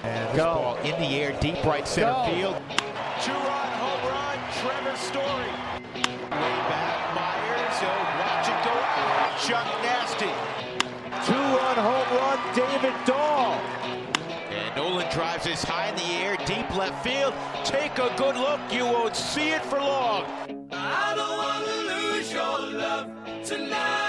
And this ball in the air, deep right center field. Two-run home run, Trevor Story. Way back, Myers. Watch it go out. Chuck Nasty. Two-run home run, David Dahl. And Nolan drives this high in the air, deep left field. Take a good look, you won't see it for long. I don't want to lose your love tonight.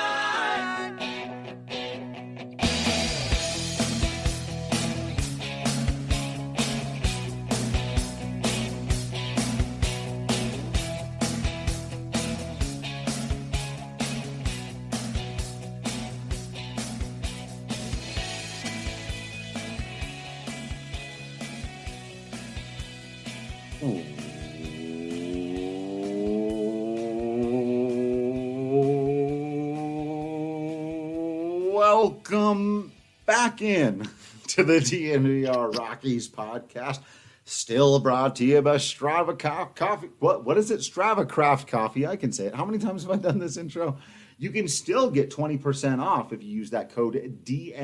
Welcome back in to the DNVR Rockies podcast. Still brought to you by Strava Coffee. What is it? Strava Craft Coffee. I can say it. How many times have I done this intro? You can still get 20% off if you use that code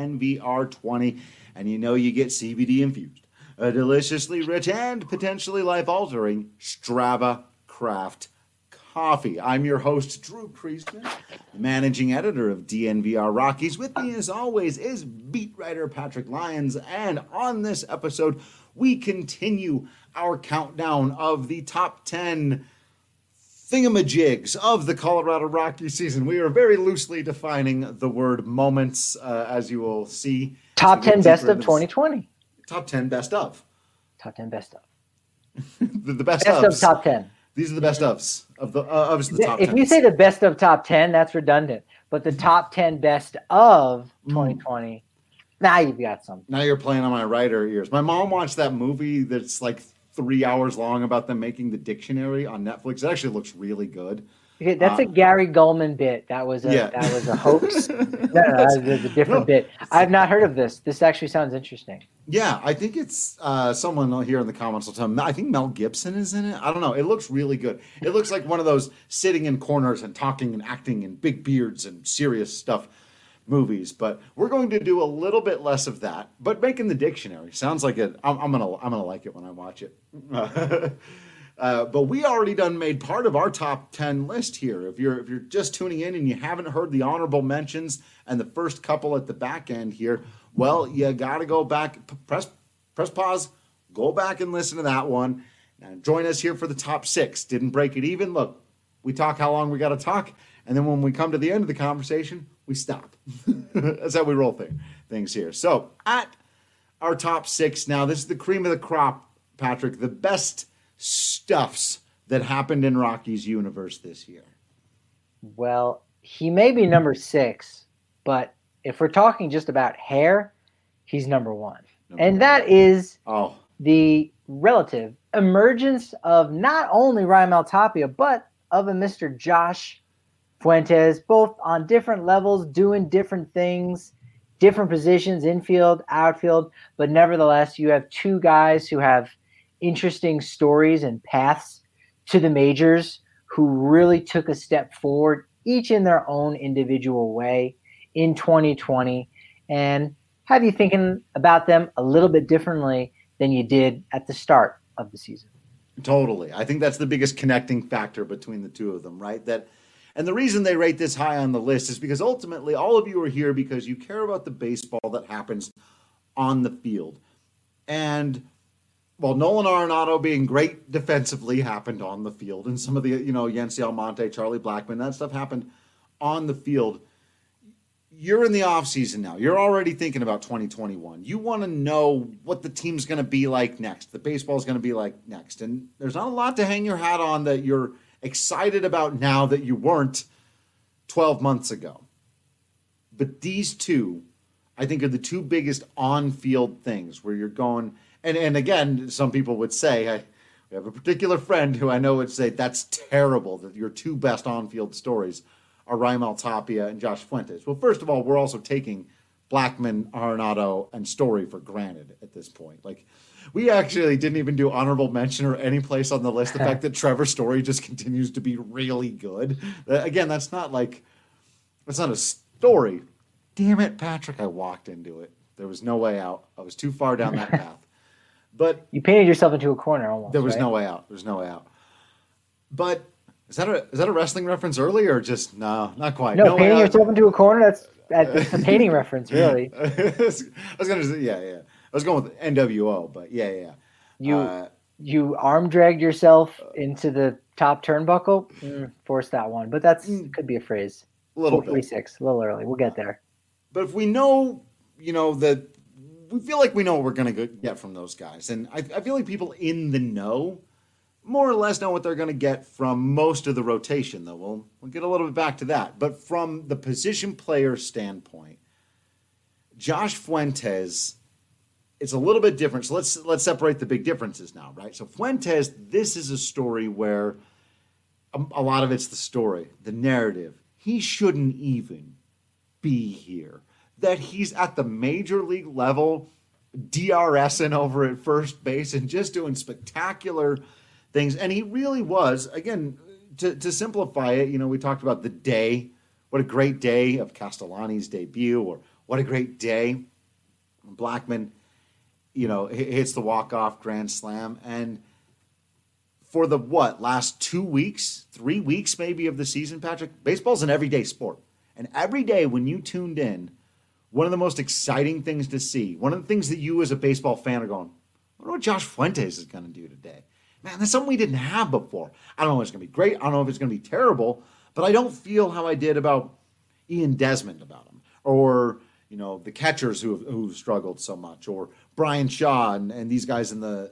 DNVR20, and you know you get CBD infused, a deliciously rich and potentially life-altering Strava Craft Coffee. I'm your host, Drew Priestman, managing editor of DNVR Rockies. With me, as always, is beat writer Patrick Lyons. And on this episode, we continue our countdown of the top 10 thingamajigs of the Colorado Rockies season. We are very loosely defining the word moments, as you will see. Top 10 best of 2020. Top 10 best of. Top 10 best of. the best Best ofs. of top 10. These are the best ofs of the top 10. If you say the best of top 10, that's redundant. But the top 10 best of 2020, now you've got something. Now you're playing on my writer ears. My mom watched that movie that's like 3 hours long about them making the dictionary on Netflix. It actually looks really good. Okay, that's a Gary Goldman bit. That was a hoax. no, that was a different bit. I've not heard of this. This actually sounds interesting. Yeah, I think it's someone here in the comments will tell me. I think Mel Gibson is in it. I don't know. It looks really good. It looks like one of those sitting in corners and talking and acting and big beards and serious stuff movies. But we're going to do a little bit less of that. But making the dictionary sounds like it. I'm gonna like it when I watch it. But we already made part of our top 10 list here. If you're just tuning in and you haven't heard the honorable mentions and the first couple at the back end here, well, you got to go back, press pause, go back and listen to that one. Now join us here for the top 6. Didn't break it even. Look, we talk how long we got to talk, and then when we come to the end of the conversation, we stop. That's how we roll things here. So at our top 6 now, this is the cream of the crop, Patrick, the best stuffs that happened in Rockies universe this year. Well, he may be number 6, but if we're talking just about hair, he's number 1. And that is the relative emergence of not only Raimel Tapia, but of a Mr. Josh Fuentes, both on different levels, doing different things, different positions, infield, outfield. But nevertheless, you have two guys who have interesting stories and paths to the majors who really took a step forward, each in their own individual way in 2020, and have you thinking about them a little bit differently than you did at the start of the season. Totally. I think that's the biggest connecting factor between the two of them, right? And the reason they rate this high on the list is because ultimately all of you are here because you care about the baseball that happens on the field. And while Nolan Arenado being great defensively happened on the field, and some of the, Yency Almonte, Charlie Blackmon, that stuff happened on the field, you're in the offseason now. You're already thinking about 2021. You want to know what the team's going to be like next, the baseball's going to be like next. And there's not a lot to hang your hat on that you're excited about now that you weren't 12 months ago. But these two, I think, are the two biggest on-field things where you're going. And again, some people would say, we have a particular friend who I know would say, that's terrible that your two best on-field stories are Raimel Tapia and Josh Fuentes. Well, first of all, we're also taking Blackmon, Arenado, and Story for granted at this point. Like, we actually didn't even do honorable mention or any place on the list the fact that Trevor Story just continues to be really good. Again, that's not a story. Damn it, Patrick, I walked into it. There was no way out. I was too far down that path. But you painted yourself into a corner almost. There was right? no way out. There's no way out. But is that a wrestling reference early or just no, not quite? No, painting yourself into a corner. That's a painting reference, really. I was gonna say, yeah. I was going with NWO, but yeah. You arm dragged yourself into the top turnbuckle. Force that one, but could be a phrase. A little bit. 436, a little early. We'll get there. But if we know, that we feel like we know what we're going to get from those guys. And I feel like people in the know more or less know what they're going to get from most of the rotation, though. We'll get a little bit back to that. But from the position player standpoint, Josh Fuentes, it's a little bit different. So let's separate the big differences now, right? So Fuentes, this is a story where a lot of it's the story, the narrative. He shouldn't even be here. That he's at the major league level, DRSing over at first base and just doing spectacular things. And he really was, again, to simplify it, we talked about the day, what a great day of Castellani's debut, or what a great day when Blackmon, hits the walk-off grand slam. And for the last 2 weeks, 3 weeks maybe of the season, Patrick, baseball's an everyday sport. And every day when you tuned in, one of the most exciting things to see, one of the things that you as a baseball fan are going, I wonder what Josh Fuentes is going to do today. Man, that's something we didn't have before. I don't know if it's going to be great. I don't know if it's going to be terrible, but I don't feel how I did about Ian Desmond about him, or, the catchers who've struggled so much, or Brian Shaw and these guys in the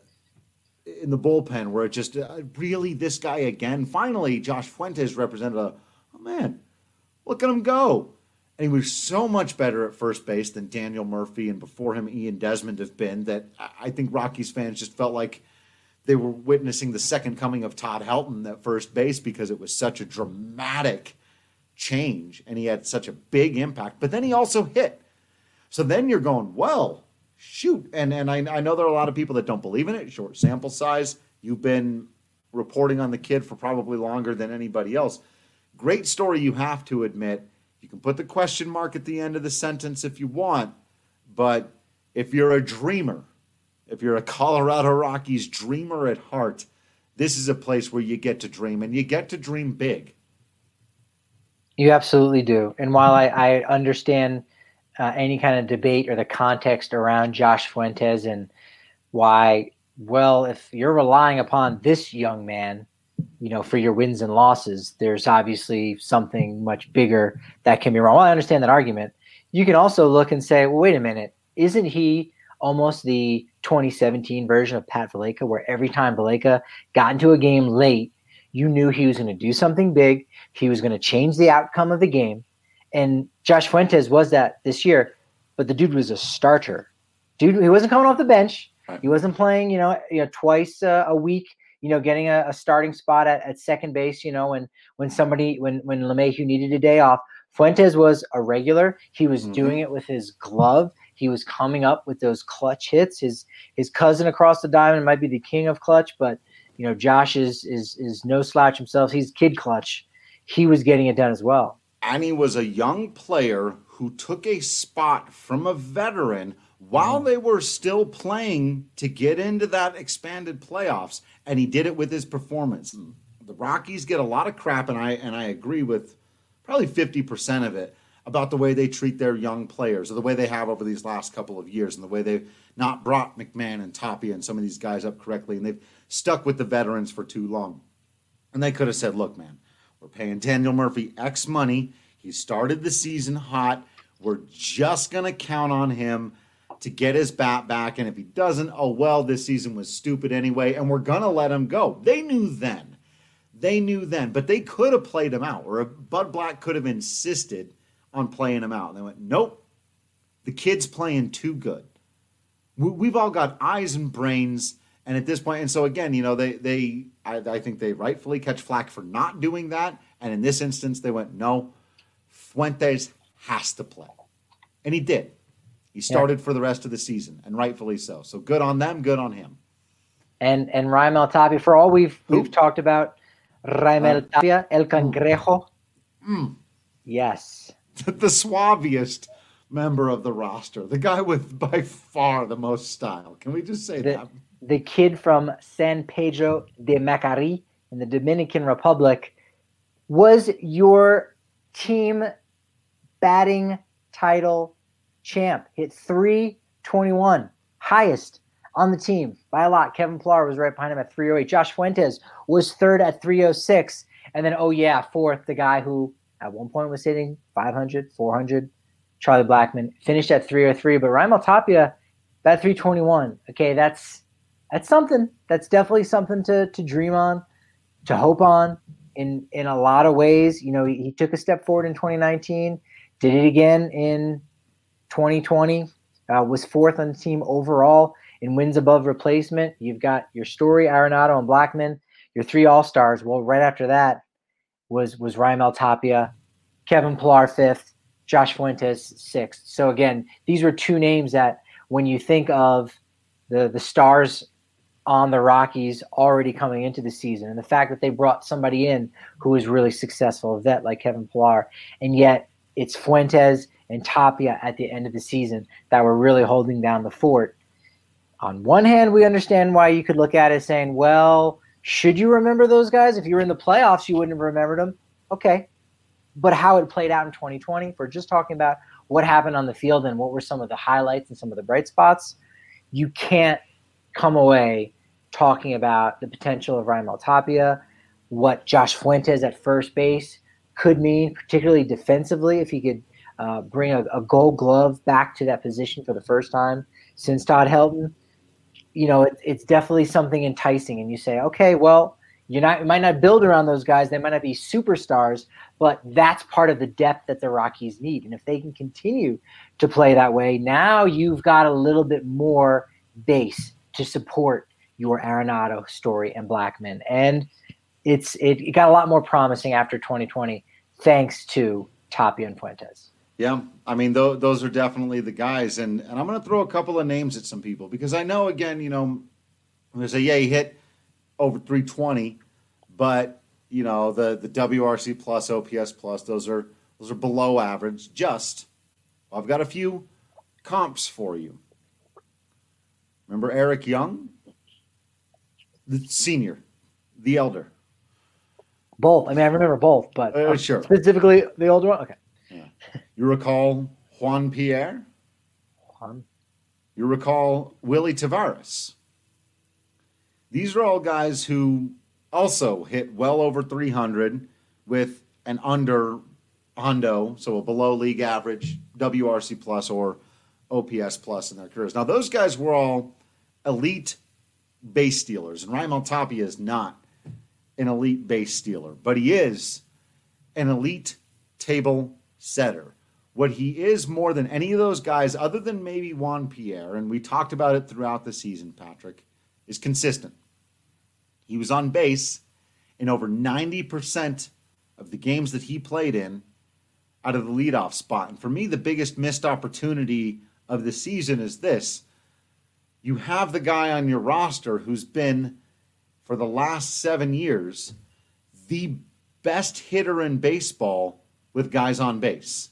bullpen, where it just really this guy again. Finally, Josh Fuentes represented oh man, look at him go. And he was so much better at first base than Daniel Murphy and before him Ian Desmond have been, that I think Rockies fans just felt like they were witnessing the second coming of Todd Helton at first base, because it was such a dramatic change and he had such a big impact. But then he also hit. So then you're going, well, shoot. And I know there are a lot of people that don't believe in it. Short sample size. You've been reporting on the kid for probably longer than anybody else. Great story, you have to admit. You can put the question mark at the end of the sentence if you want, but if you're a dreamer, if you're a Colorado Rockies dreamer at heart, this is a place where you get to dream, and you get to dream big. You absolutely do. And while I understand any kind of debate or the context around Josh Fuentes and why, if you're relying upon this young man, for your wins and losses, there's obviously something much bigger that can be wrong. Well, I understand that argument. You can also look and say, well, wait a minute, isn't he almost the 2017 version of Pat Valaika, where every time Valaika got into a game late, you knew he was going to do something big, he was going to change the outcome of the game. And Josh Fuentes was that this year, but the dude was a starter. He wasn't coming off the bench. He wasn't playing, twice a week, getting a starting spot at second base, when LeMahieu needed a day off. Fuentes was a regular. He was doing it with his glove. He was coming up with those clutch hits. His cousin across the diamond might be the king of clutch, but Josh is no slouch himself. He's kid clutch. He was getting it done as well. And he was a young player who took a spot from a veteran while they were still playing to get into that expanded playoffs, and he did it with his performance. The Rockies get a lot of crap, and I agree with probably 50% of it, about the way they treat their young players, or the way they have over these last couple of years, and the way they've not brought McMahon and Tapia and some of these guys up correctly, and they've stuck with the veterans for too long. And they could have said, look, man, we're paying Daniel Murphy X money. He started the season hot. We're just going to count on him to get his bat back. And if he doesn't, this season was stupid anyway, and we're going to let him go. They knew then. But they could have played him out, or Bud Black could have insisted on playing him out. And they went, nope, the kid's playing too good. We've all got eyes and brains. And at this point, and so again, I think they rightfully catch flack for not doing that. And in this instance, they went, no, Fuentes has to play. And he did. He started for the rest of the season, and rightfully so. So good on them, good on him. And Raimel Tapia, for all we've talked about Raimel Tapia, El Cangrejo. Yes. The suaviest member of the roster. The guy with by far the most style. Can we just say that? the kid from San Pedro de Macari in the Dominican Republic, was your team batting title champ. Hit 321, highest on the team by a lot. Kevin Pillar was right behind him at 308. Josh Fuentes was third at 306. And then, fourth, the guy who at one point was hitting 500, 400, Charlie Blackmon, finished at 303. But Raimel Tapia, that 321, okay, that's something. That's definitely something to dream on, to hope on in a lot of ways. You know, he took a step forward in 2019, did it again in 2020, was fourth on the team overall in wins above replacement. You've got your Story, Arenado, and Blackmon, your three All-Stars. Well, right after that was Raimel Tapia, Kevin Pillar fifth, Josh Fuentes sixth. So again, these were two names that when you think of the stars on the Rockies already coming into the season, and the fact that they brought somebody in who was really successful, a vet like Kevin Pillar, and yet it's Fuentes and Tapia at the end of the season that were really holding down the fort. On one hand, we understand why you could look at it saying, well, should you remember those guys? If you were in the playoffs, you wouldn't have remembered them. Okay. But how it played out in 2020, if we're just talking about what happened on the field and what were some of the highlights and some of the bright spots, you can't come away talking about the potential of Raimel Tapia, what Josh Fuentes at first base could mean, particularly defensively, if he could bring a Gold Glove back to that position for the first time since Todd Helton. You know, it's definitely something enticing. And you say, okay, well, you might not build around those guys. They might not be superstars, but that's part of the depth that the Rockies need. And if they can continue to play that way, now you've got a little bit more base to support your Arenado, Story, and Blackmon. And it got a lot more promising after 2020 thanks to Tapia and Fuentes. Yeah, I mean, those are definitely the guys. And I'm going to throw a couple of names at some people because I know, again, you know, I'm going to say, yeah, he hit over 320, but, you know, the WRC plus, OPS plus, those are below average. Just, I've got a few comps for you. Remember Eric Young? The senior, the elder. Both. I mean, I remember both, but sure. Specifically the older one? Okay. Yeah. You recall Juan Pierre? You recall Willie Tavares? These are all guys who also hit well over 300 with an under hundo, so a below league average, WRC plus or OPS plus in their careers. Now, those guys were all elite base stealers, and Raimel Tapia is not an elite base stealer, but he is an elite table setter. What he is more than any of those guys, other than maybe Juan Pierre, and we talked about it throughout the season, Patrick, is consistent. He was on base in over 90% of the games that he played in out of the leadoff spot. And for me, the biggest missed opportunity of the season is this. You have the guy on your roster who's been, for the last 7 years, the best hitter in baseball with guys on base.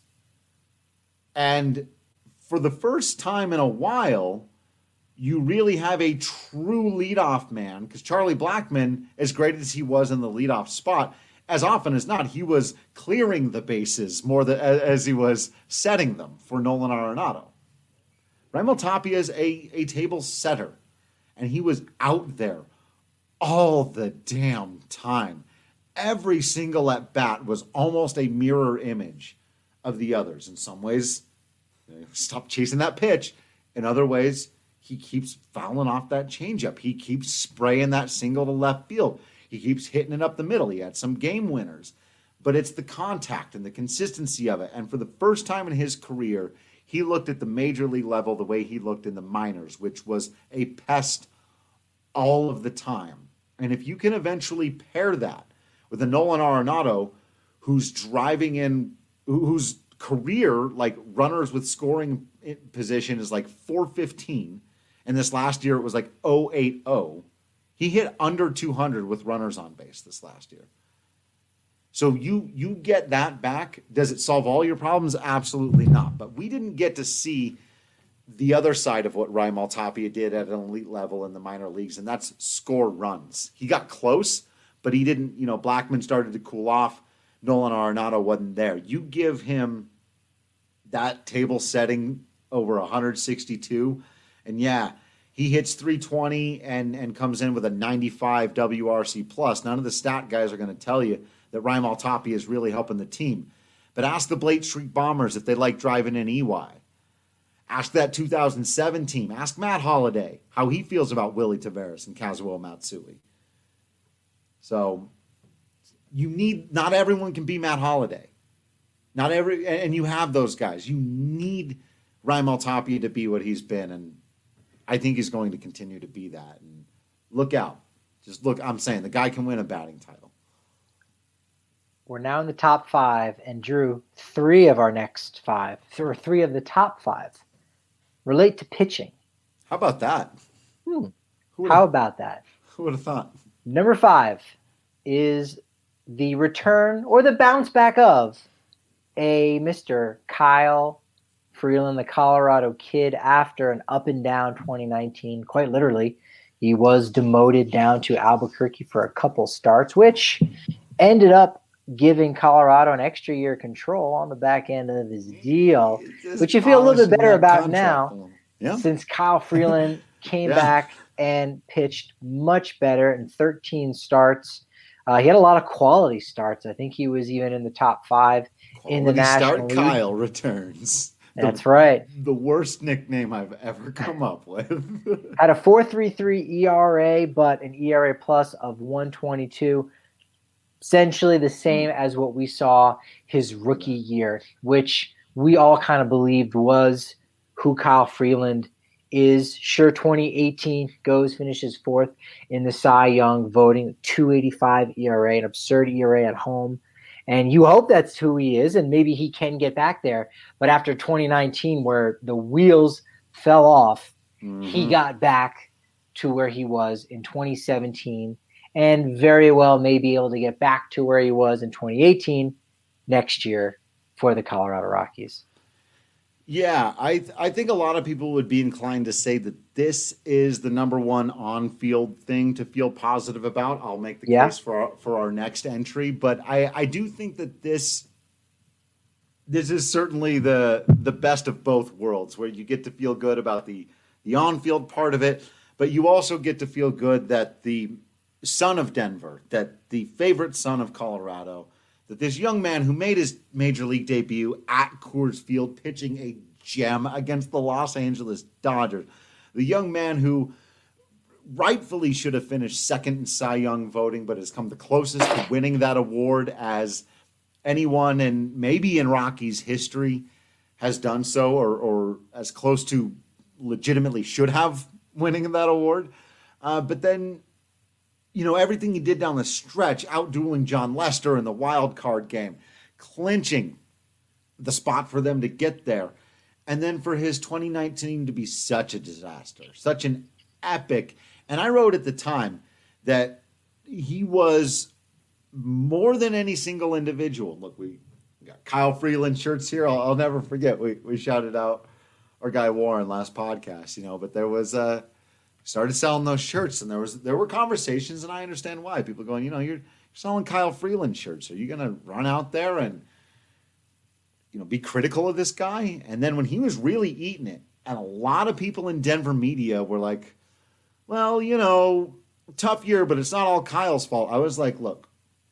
And for the first time in a while, you really have a true leadoff man, because Charlie Blackmon, as great as he was in the leadoff spot, as often as not, he was clearing the bases more than as he was setting them for Nolan Arenado. Raimel Tapia is a table setter, and he was out there all the damn time. Every single at-bat was almost a mirror image of the others. In some ways, stop chasing that pitch. In other ways, he keeps fouling off that changeup. He keeps spraying that single to left field. He keeps hitting it up the middle. He had some game winners. But it's the contact and the consistency of it. And for the first time in his career, he looked at the major league level the way he looked in the minors, which was a pest all of the time. And if you can eventually pair that with a Nolan Arenado who's driving in, whose career, like runners with scoring position, is like 415, and this last year it was like 080. He hit under 200 with runners on base this last year. So you get that back. Does it solve all your problems? Absolutely not. But we didn't get to see the other side of what Raimel Tapia did at an elite level in the minor leagues, and that's score runs. He got close, but he didn't, Blackmon started to cool off. Nolan Arenado wasn't there. You give him that table setting over 162, and yeah, he hits 320 and comes in with a 95 WRC plus. None of the stat guys are going to tell you that Raimel Tapia is really helping the team. But ask the Blake Street Bombers if they like driving in EY. Ask that 2007 team. Ask Matt Holliday how he feels about Willie Taveras and Kazuo Matsui. So not everyone can be Matt Holliday. And you have those guys. You need Raimel Tapia to be what he's been, and I think he's going to continue to be that. And look out. Just look, I'm saying the guy can win a batting title. We're now in the top 5, and Drew, 3 of our next 5, or 3 of the top 5, relate to pitching. How about that? How about that? Who would have thought? Number 5 is the return or the bounce back of a Mr. Kyle Freeland, the Colorado kid, after an up and down 2019. Quite literally, he was demoted down to Albuquerque for a couple starts, which ended up giving Colorado an extra year control on the back end of his deal, which you feel a little bit better about now, since Kyle Freeland came back and pitched much better in 13 starts. He had a lot of quality starts. I think he was even in the top 5 in the National League. Kyle returns. That's right. The worst nickname I've ever come up with. Had a 4.33 ERA, but an ERA plus of 122. Essentially the same as what we saw his rookie year, which we all kind of believed was who Kyle Freeland is. Sure, 2018 finishes 4th in the Cy Young voting, 2.85 ERA, an absurd ERA at home. And you hope that's who he is, and maybe he can get back there. But after 2019, where the wheels fell off, he got back to where he was in 2017, and very well may be able to get back to where he was in 2018 next year for the Colorado Rockies. Yeah, I think a lot of people would be inclined to say that this is the number one on-field thing to feel positive about. I'll make the case for our next entry, but I do think that this is certainly the best of both worlds, where you get to feel good about the on-field part of it, but you also get to feel good that the son of Denver, that the favorite son of Colorado, that this young man who made his major league debut at Coors Field pitching a gem against the Los Angeles Dodgers, the young man who rightfully should have finished second in Cy Young voting, but has come the closest to winning that award as anyone, and maybe in Rockies history, has done so, or as close to legitimately should have winning that award. But then, everything he did down the stretch, outdueling John Lester in the wild card game, clinching the spot for them to get there. And then for his 2019 to be such a disaster, such an epic. And I wrote at the time that he was more than any single individual. Look, we got Kyle Freeland shirts here. I'll never forget. We shouted out our guy Warren last podcast, but there was started selling those shirts, and there were conversations, and I understand why. People going, you're selling Kyle Freeland shirts. Are you going to run out there and be critical of this guy? And then when he was really eating it, and a lot of people in Denver media were like, well, tough year, but it's not all Kyle's fault. I was like, look,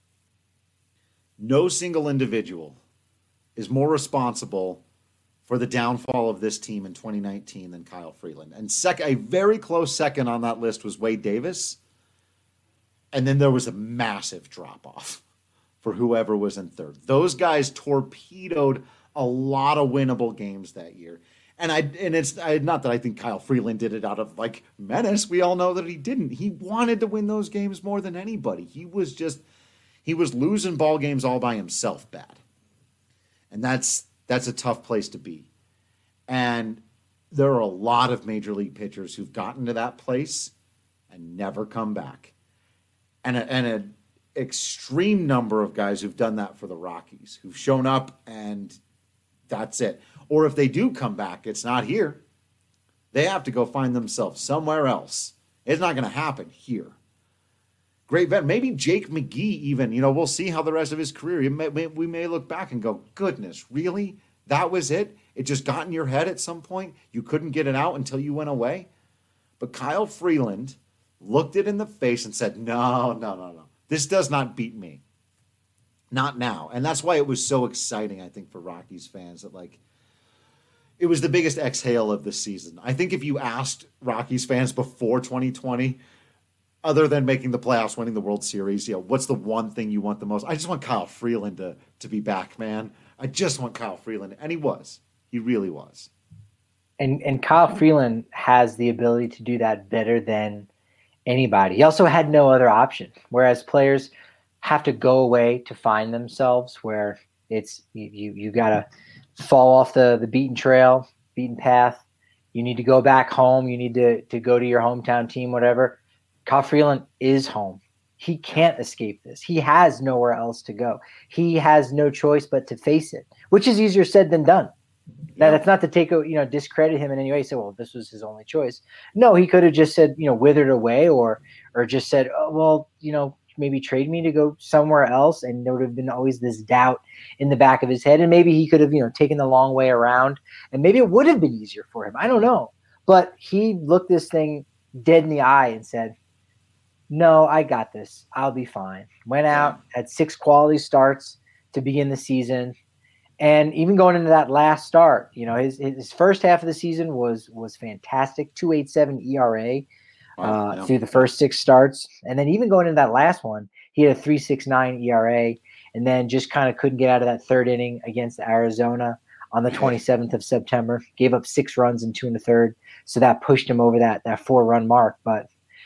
no single individual is more responsible for the downfall of this team in 2019 than Kyle Freeland. And a very close second on that list was Wade Davis. And then there was a massive drop-off for whoever was in third. Those guys torpedoed a lot of winnable games that year. And it's not that I think Kyle Freeland did it out of menace. We all know that he didn't. He wanted to win those games more than anybody. He was losing ball games all by himself bad. And that's a tough place to be. And there are a lot of major league pitchers who've gotten to that place and never come back. And an extreme number of guys who've done that for the Rockies, who've shown up and that's it. Or if they do come back, it's not here. They have to go find themselves somewhere else. It's not going to happen here. Great vet. Maybe Jake McGee even, we'll see how the rest of his career, we may look back and go, goodness, really? That was it? It just got in your head at some point? You couldn't get it out until you went away? But Kyle Freeland looked it in the face and said, no. This does not beat me. Not now. And that's why it was so exciting, I think, for Rockies fans that, it was the biggest exhale of the season. I think if you asked Rockies fans before 2020, other than making the playoffs, winning the World Series, what's the one thing you want the most? I just want Kyle Freeland to be back, man. I just want Kyle Freeland. And he was. He really was. And Kyle Freeland has the ability to do that better than anybody. He also had no other option, whereas players have to go away to find themselves, where it's you got to fall off the beaten path. You need to go back home. You need to go to your hometown team, whatever. Kyle Freeland is home. He can't escape this. He has nowhere else to go. He has no choice but to face it, which is easier said than done. Now, that's not to take discredit him in any way. Say, well, this was his only choice. No, he could have just said, withered away, or just said, oh, well, maybe trade me to go somewhere else. And there would have been always this doubt in the back of his head. And maybe he could have, taken the long way around, and maybe it would have been easier for him. I don't know. But he looked this thing dead in the eye and said, no, I got this. I'll be fine. Went out, had 6 quality starts to begin the season. And even going into that last start, his first half of the season was fantastic. 2.87 ERA through the first 6 starts. And then even going into that last one, he had a 3.69 ERA, and then just kind of couldn't get out of that third inning against Arizona on the 27th of September. Gave up 6 runs in 2 1/3. So that pushed him over that 4-run mark. But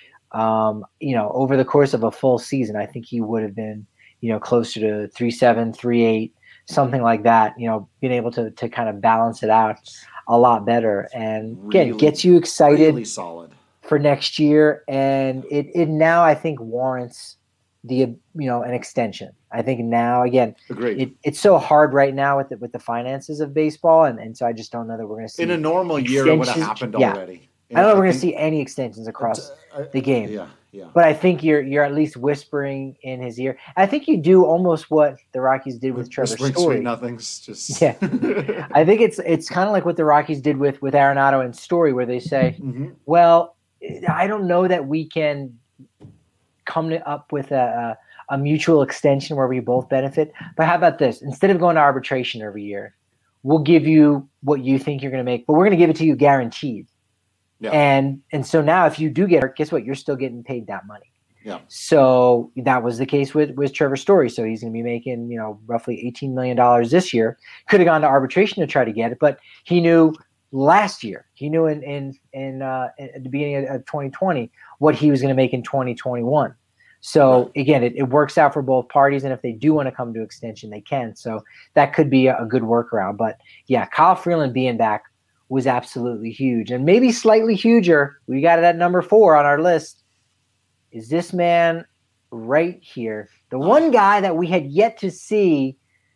over the course of a full season, I think he would have been, closer to 3.7, 3.8, something like that, being able to kind of balance it out a lot better. And again, it gets you excited really solid for next year. And it now, I think, warrants an extension. I think now, again, it's so hard right now with the finances of baseball. And so I just don't know that we're going to see in a normal year it would have happened already. I don't know if we're going to see any extensions across the game. Yeah. But I think you're at least whispering in his ear. I think you do almost what the Rockies did with Trevor Story. Sweet nothings. Just yeah. I think it's kind of like what the Rockies did with Arenado and Story, where they say, well, I don't know that we can come up with a mutual extension where we both benefit. But how about this? Instead of going to arbitration every year, we'll give you what you think you're going to make, but we're going to give it to you guaranteed. Yeah. And so now if you do get hurt, guess what? You're still getting paid that money. Yeah. So that was the case with Trevor Story. So he's going to be making, roughly $18 million this year. Could have gone to arbitration to try to get it, but he knew last year, he knew in at the beginning of 2020 what he was going to make in 2021. So again, it works out for both parties. And if they do want to come to extension, they can. So that could be a good workaround. But yeah, Kyle Freeland being back was absolutely huge, and maybe slightly huger. We got it at number 4 on our list. Is this man right here, the one guy that we had yet to see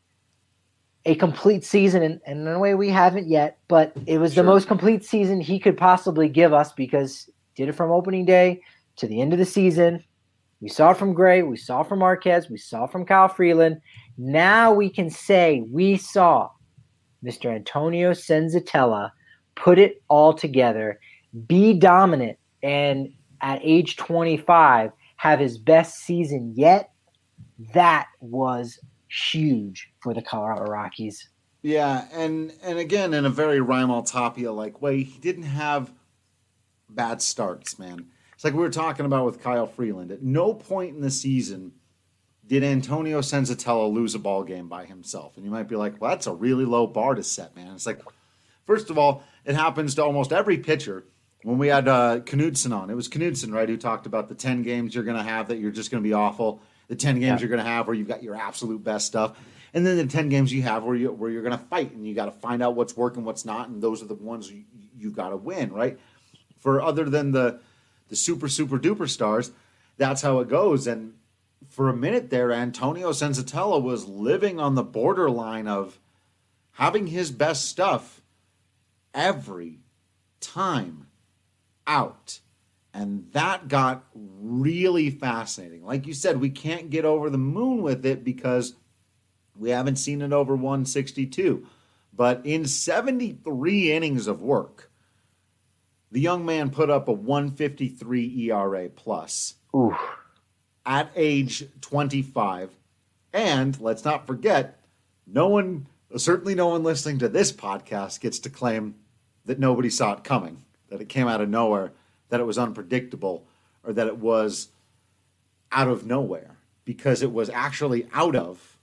a complete season, and in a way we haven't yet, but it was the most complete season he could possibly give us, because he did it from opening day to the end of the season. We saw it from Gray, we saw it from Marquez, we saw it from Kyle Freeland. Now we can say we saw Mr. Antonio Senzatella put it all together, be dominant, and at age 25 have his best season yet. That was huge for the Colorado Rockies. Yeah, and again, in a very Raimel Tapia-like way, he didn't have bad starts, man. It's like we were talking about with Kyle Freeland. At no point in the season did Antonio Senzatella lose a ball game by himself. And you might be like, well, that's a really low bar to set, man. It's like, first of all, it happens to almost every pitcher. When we had Knudsen on, it was Knudsen, right, who talked about the 10 games you're going to have that you're just going to be awful, the 10 games you're going to have where you've got your absolute best stuff, and then the 10 games you have where you're going to fight, and you got to find out what's working, what's not, and those are the ones you got to win, right? For other than the super, super duper stars, that's how it goes. And for a minute there, Antonio Senzatella was living on the borderline of having his best stuff every time out. And that got really fascinating. Like you said, we can't get over the moon with it because we haven't seen it over 162. But in 73 innings of work, the young man put up a 153 ERA plus. Oof. At age 25. And let's not forget, certainly no one listening to this podcast gets to claim that nobody saw it coming, that it came out of nowhere, that it was unpredictable, or that it was out of nowhere, because it was actually out of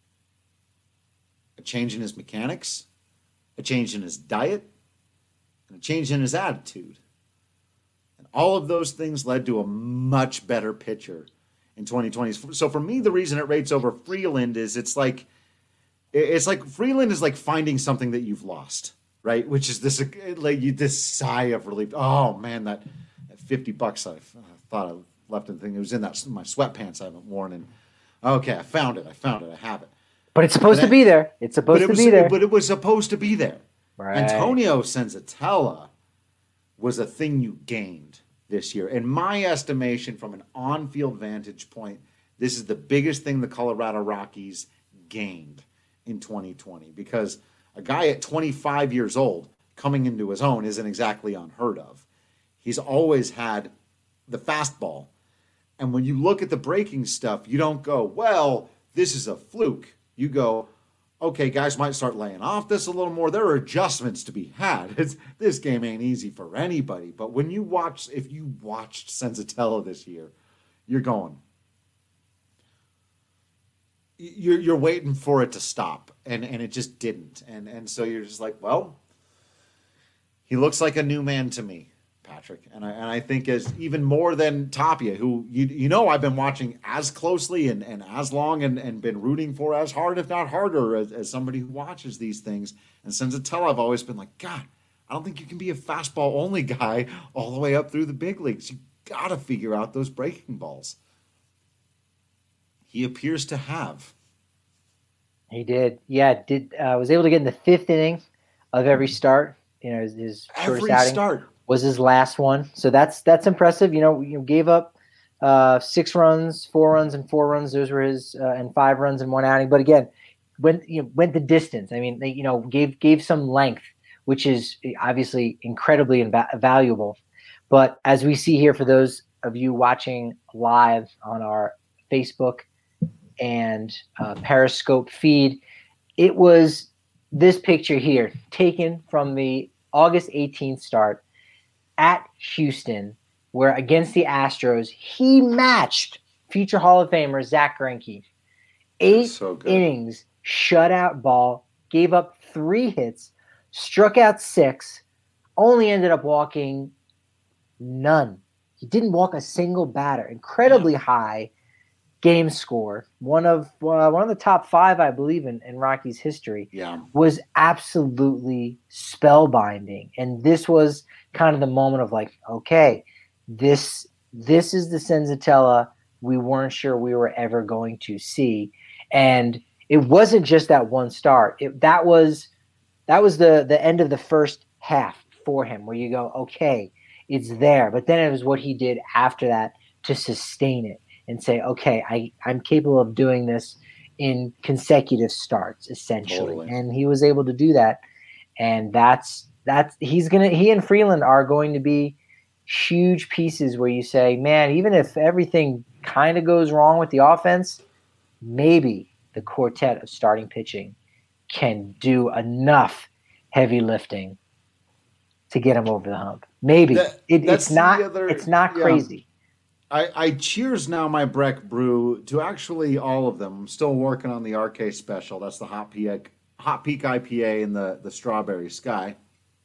a change in his mechanics, a change in his diet, and a change in his attitude. And all of those things led to a much better pitcher in 2020. So for me, the reason it rates over Freeland is it's like Freeland is like finding something that you've lost. Right, which is this sigh of relief. Oh man, that $50 I thought I left in the thing. It was in my sweatpants I haven't worn. And okay, I found it. I have it. But it's supposed to be there. It's supposed to be there. But it was supposed to be there. Right. Antonio Senzatella was a thing you gained this year. In my estimation, from an on-field vantage point, this is the biggest thing the Colorado Rockies gained in 2020, because a guy at 25 years old coming into his own isn't exactly unheard of. He's always had the fastball. And when you look at the breaking stuff, you don't go, well, this is a fluke. You go, okay, guys might start laying off this a little more. There are adjustments to be had. This game ain't easy for anybody. But if you watched Senzatella this year, you're going, you're waiting for it to stop, and it just didn't. And so you're just like, well, he looks like a new man to me, Patrick. And I think as even more than Tapia, who I've been watching as closely and as long and been rooting for as hard, if not harder, as somebody who watches these things. And Senzatella, I've always been like, God, I don't think you can be a fastball only guy all the way up through the big leagues. You got to figure out those breaking balls. He appears to have. He did. Yeah, was able to get in the fifth inning of every start. His first outing was his last one. So that's impressive. Gave up 6 runs, 4 runs, and 4 runs. Those were his and 5 runs in one outing. But again, went the distance. I mean, gave some length, which is obviously incredibly valuable. But as we see here, for those of you watching live on our Facebook and Periscope feed, it was this picture here taken from the August 18th start at Houston, where against the Astros, he matched future Hall of Famer Zach Greinke. 8 innings, shutout ball, gave up 3 hits, struck out 6, only ended up walking none. He didn't walk a single batter. Incredibly high game score, one of the top 5, I believe, in Rockies history. Yeah, was absolutely spellbinding. And this was kind of the moment of like, okay, this is the Senzatella we weren't sure we were ever going to see. And it wasn't just that one start. That was the end of the first half for him, where you go, okay, it's there. But then it was what he did after that to sustain it and say, okay, I'm capable of doing this in consecutive starts, essentially. Totally. And he was able to do that. And he and Freeland are going to be huge pieces where you say, man, even if everything kind of goes wrong with the offense, maybe the quartet of starting pitching can do enough heavy lifting to get him over the hump. Maybe. It's not crazy. I cheers now my Breck Brew to actually all of them. I'm still working on the RK special. That's the Hot Peak IPA in the Strawberry Sky.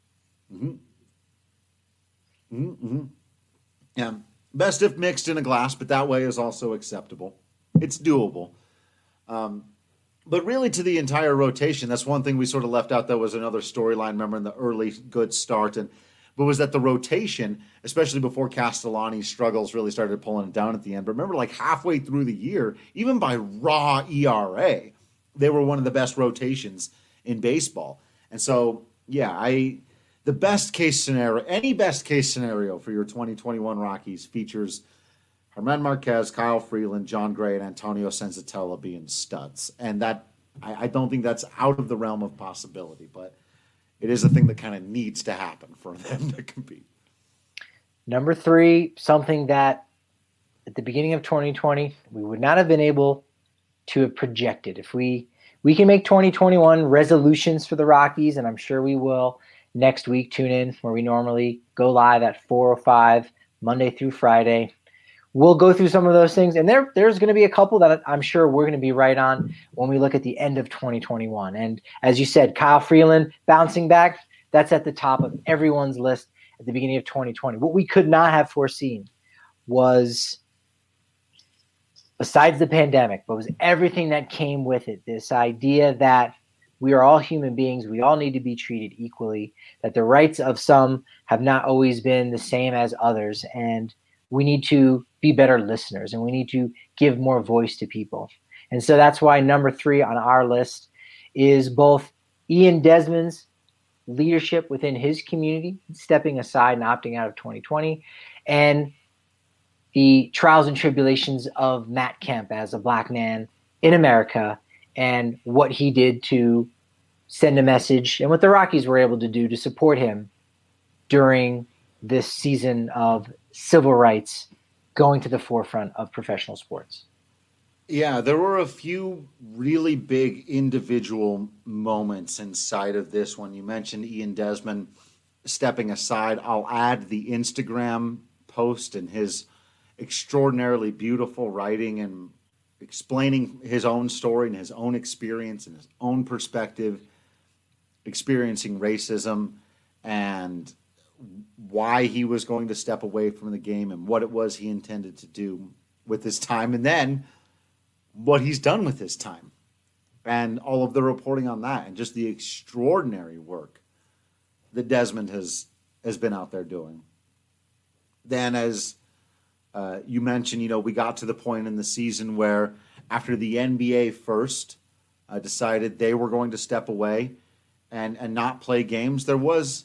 Yeah, best if mixed in a glass, but that way is also acceptable. It's doable. But really, to the entire rotation, that's one thing we sort of left out. That was another storyline, remember, in the early good start. But was that the rotation, especially before Castellani's struggles really started pulling it down at the end. But remember, like halfway through the year, even by raw ERA, they were one of the best rotations in baseball. And so, yeah, the best case scenario, any best case scenario for your 2021 Rockies features Germán Marquez, Kyle Freeland, John Gray, and Antonio Senzatella being studs. And that I don't think that's out of the realm of possibility, but it is a thing that kind of needs to happen for them to compete. Number 3, something that at the beginning of 2020, we would not have been able to have projected. If we can make 2021 resolutions for the Rockies, and I'm sure we will next week, tune in where we normally go live at 4:05, Monday through Friday. We'll go through some of those things, and there's going to be a couple that I'm sure we're going to be right on when we look at the end of 2021. And as you said, Kyle Freeland bouncing back, that's at the top of everyone's list at the beginning of 2020. What we could not have foreseen was, besides the pandemic, but was everything that came with it, this idea that we are all human beings, we all need to be treated equally, that the rights of some have not always been the same as others, and we need to be better listeners, and we need to give more voice to people. And so that's why number 3 on our list is both Ian Desmond's leadership within his community, stepping aside and opting out of 2020, and the trials and tribulations of Matt Kemp as a Black man in America, and what he did to send a message, and what the Rockies were able to do to support him during this season of civil rights going to the forefront of professional sports. Yeah, there were a few really big individual moments inside of this one. You mentioned Ian Desmond stepping aside. I'll add the Instagram post and his extraordinarily beautiful writing and explaining his own story and his own experience and his own perspective, experiencing racism and why he was going to step away from the game and what it was he intended to do with his time, and then what he's done with his time and all of the reporting on that and just the extraordinary work that Desmond has been out there doing. Then, as you mentioned, we got to the point in the season where after the NBA first decided they were going to step away and not play games, there was,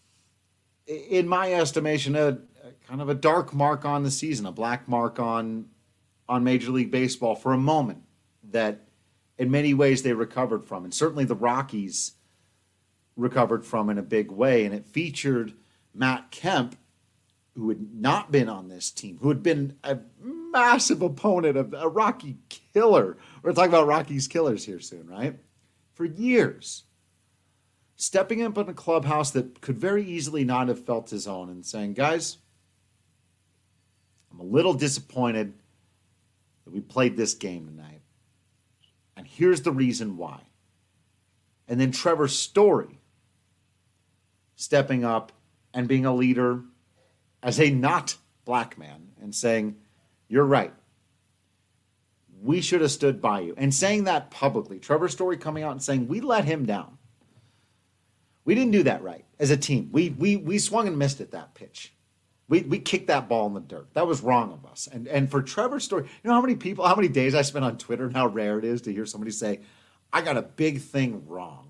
in my estimation, a kind of a dark mark on the season, a black mark on Major League Baseball for a moment that in many ways they recovered from. And certainly the Rockies recovered from in a big way. And it featured Matt Kemp, who had not been on this team, who had been a massive opponent of a Rocky killer. We're talking about Rockies killers here soon, right? For years. Stepping up in a clubhouse that could very easily not have felt his own and saying, guys, I'm a little disappointed that we played this game tonight. And here's the reason why. And then Trevor Story stepping up and being a leader as a not black man and saying, you're right. We should have stood by you. And saying that publicly. Trevor Story coming out and saying, we let him down. We didn't do that right as a team. We swung and missed at that pitch. We kicked that ball in the dirt. That was wrong of us. And for Trevor Story, you know how many days I spent on Twitter and how rare it is to hear somebody say, I got a big thing wrong.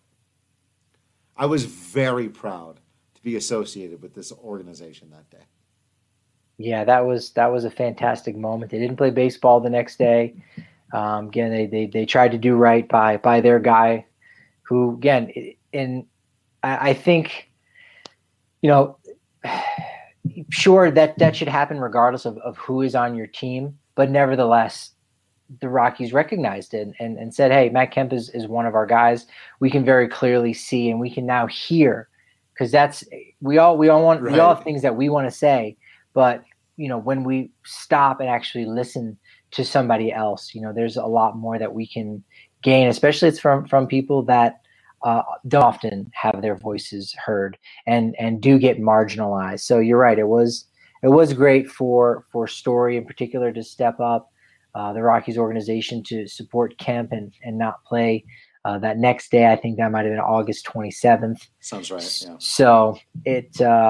I was very proud to be associated with this organization that day. Yeah, that was a fantastic moment. They didn't play baseball the next day. Again, they tried to do right by their guy, who again, and I think, sure that should happen regardless of who is on your team, but nevertheless, the Rockies recognized it and said, hey, Matt Kemp is one of our guys. We can very clearly see and we can now hear, because that's we all have things that we want to say, but when we stop and actually listen to somebody else, there's a lot more that we can gain, especially it's from people that don't often have their voices heard and do get marginalized. So you're right. It was great for Story in particular to step up, the Rockies organization to support Kemp and not play that next day. I think that might have been August 27th. Sounds right. Yeah. So it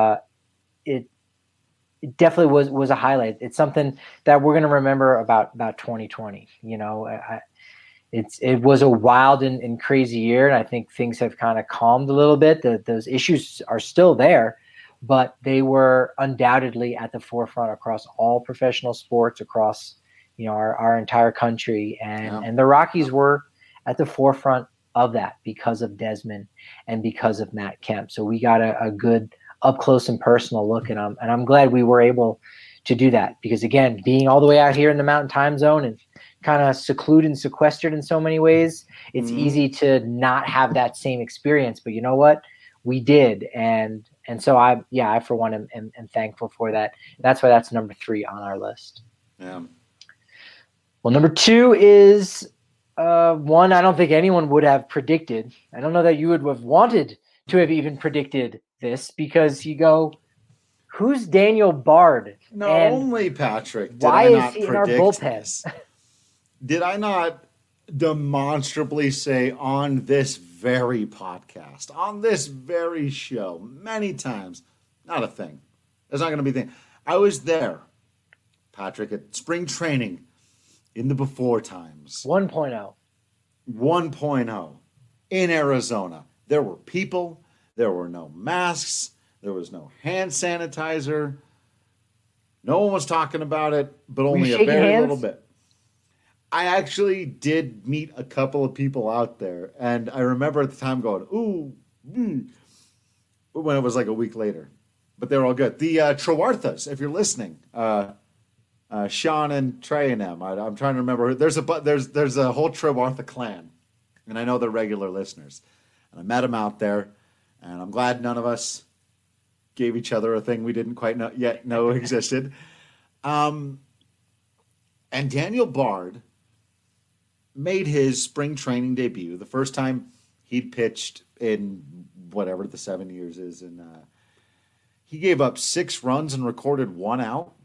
definitely was a highlight. It's something that we're going to remember about 2020. it was a wild and crazy year, and I think things have kind of calmed a little bit. Those issues are still there, but they were undoubtedly at the forefront across all professional sports, across our entire country, and the Rockies were at the forefront of that because of Desmond and because of Matt Kemp. So we got a good up close and personal look at them, and I'm glad we were able to do that because, again, being all the way out here in the Mountain Time Zone and kind of secluded and sequestered in so many ways, it's easy to not have that same experience. But you know what? We did, and so I for one am thankful for that. That's why that's number 3 on our list. Yeah. Well, number 2 is one I don't think anyone would have predicted. I don't know that you would have wanted to have even predicted this because you go, who's Daniel Bard? Not only, Patrick, did why I is not he in our predict bullpen? this, did I not demonstrably say on this very podcast, on this very show, many times, not a thing. There's not going to be a thing. I was there, Patrick, at spring training in the before times. 1.0. 1.0 in Arizona. There were people. There were no masks. There was no hand sanitizer. No one was talking about it, but only a very little bit. I actually did meet a couple of people out there, and I remember at the time going, ooh, when it was like a week later. But they're all good. The Trewarthas, if you're listening, Sean and Trey and them. I'm trying to remember. There's a whole Trewartha clan, and I know they're regular listeners. And I met them out there, and I'm glad none of us gave each other a thing we didn't quite yet know existed. And Daniel Bard made his spring training debut, the first time he'd pitched in whatever the 7 years is, and he gave up 6 runs and recorded 1 out.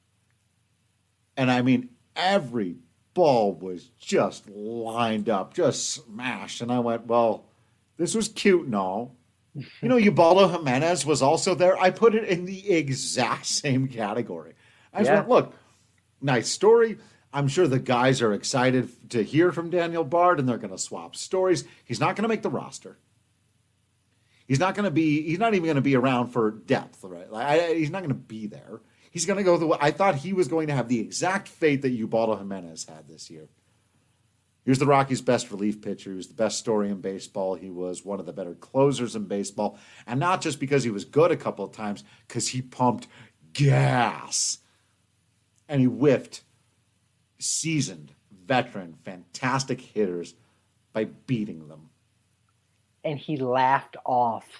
And I mean, every ball was just lined up, just smashed. And I went, well, this was cute and all. Ubaldo Jimenez was also there. I put it in the exact same category. I just went, look, nice story. I'm sure the guys are excited to hear from Daniel Bard, and they're going to swap stories. He's not going to make the roster. He's not even going to be around for depth, right? He's not going to be there. He's going to go I thought he was going to have the exact fate that Ubaldo Jimenez had this year. He was the Rockies' best relief pitcher. He was the best story in baseball. He was one of the better closers in baseball. And not just because he was good a couple of times, because he pumped gas. And he whiffed seasoned, veteran, fantastic hitters by beating them. And he laughed off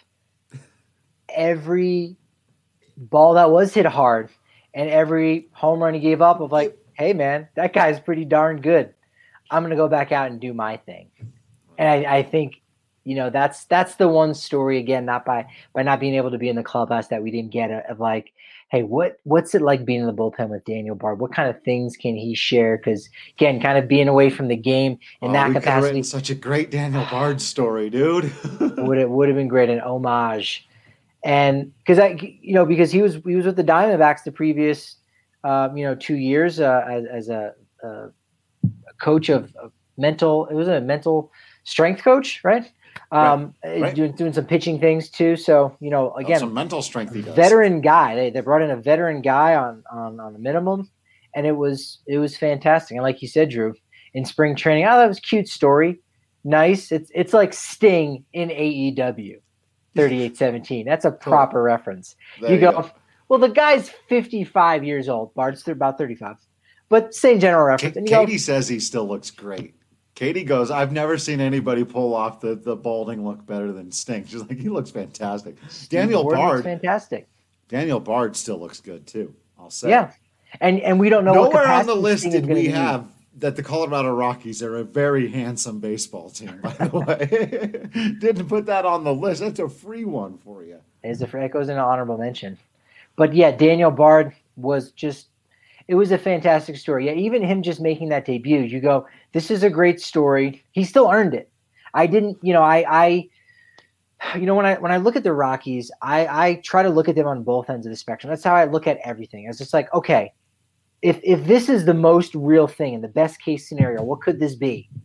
every ball that was hit hard and every home run he gave up of like, hey, man, that guy's pretty darn good. I'm going to go back out and do my thing. And I think, that's the one story, again, not by not being able to be in the clubhouse that we didn't get of like, hey, what's it like being in the bullpen with Daniel Bard? What kind of things can he share? Because, again, kind of being away from the game in that capacity. Such a great Daniel Bard story, dude. would have been great, an homage. And because he was with the Diamondbacks the previous 2 years as a coach of mental. It was a mental strength coach, right? Right. Doing some pitching things too. So again, some mental strength. He does. Veteran guy. They brought in a veteran guy on the minimum, and it was fantastic. And like you said, Drew, in spring training, that was a cute story. Nice. It's like Sting in AEW. 38-17. That's a proper reference. You go, well, the guy's 55 years old. Bard's about 35. But same general reference. And Katie says he still looks great. Katie goes, I've never seen anybody pull off the balding look better than Sting. She's like, he looks fantastic. Daniel Bard. Fantastic. Daniel Bard still looks good, too, I'll say. Yeah. And we don't know Nowhere what on the list Sting did we have that the Colorado Rockies are a very handsome baseball team, by the way. Didn't put that on the list. That's a free one for you. It goes in an honorable mention. But yeah, Daniel Bard was it was a fantastic story. Yeah, even him just making that debut, you go, this is a great story. He still earned it. I didn't, when I look at the Rockies, I try to look at them on both ends of the spectrum. That's how I look at everything. It's just like, okay, if this is the most real thing in the best case scenario, what could this be?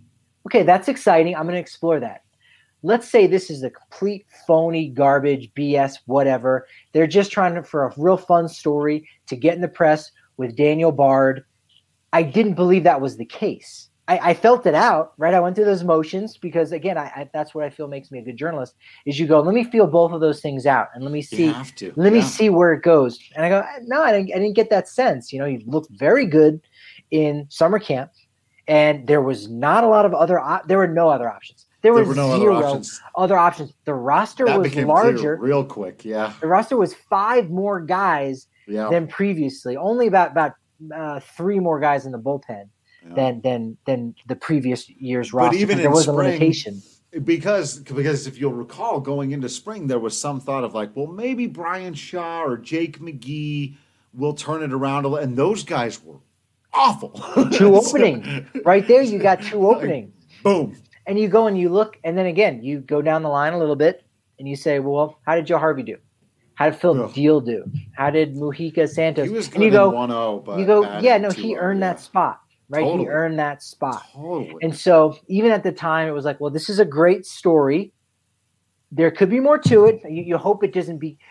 Okay, that's exciting. I'm going to explore that. Let's say this is a complete phony, garbage, BS, whatever. They're just trying for a real fun story to get in the press with Daniel Bard. I didn't believe that was the case. I felt it out, right? I went through those motions because, again, that's what I feel makes me a good journalist. Is you go, let me feel both of those things out, and let me see, me see where it goes. And I go, no, I didn't get that sense. You know, you looked very good in summer camp, and there was not a lot of there were no other options. There were no zero other options. The roster was larger, real quick. Yeah, the roster was 5 more guys than previously. Only about 3 more guys in the bullpen than the previous year's roster. But even there was a limitation. Because if you'll recall, going into spring, there was some thought of like, well, maybe Brian Shaw or Jake McGee will turn it around, and those guys were awful. 2 openings. Right there, you got 2 openings. Boom. And you go and you look, and then again, you go down the line a little bit, and you say, well, how did Joe Harvey do? How did Phil Deal do? How did Mujica Santos? He was good in 1-0, but you go, he earned that spot, right? Totally. He earned that spot. Totally. And so even at the time, it was like, well, this is a great story. There could be more to it. You hope it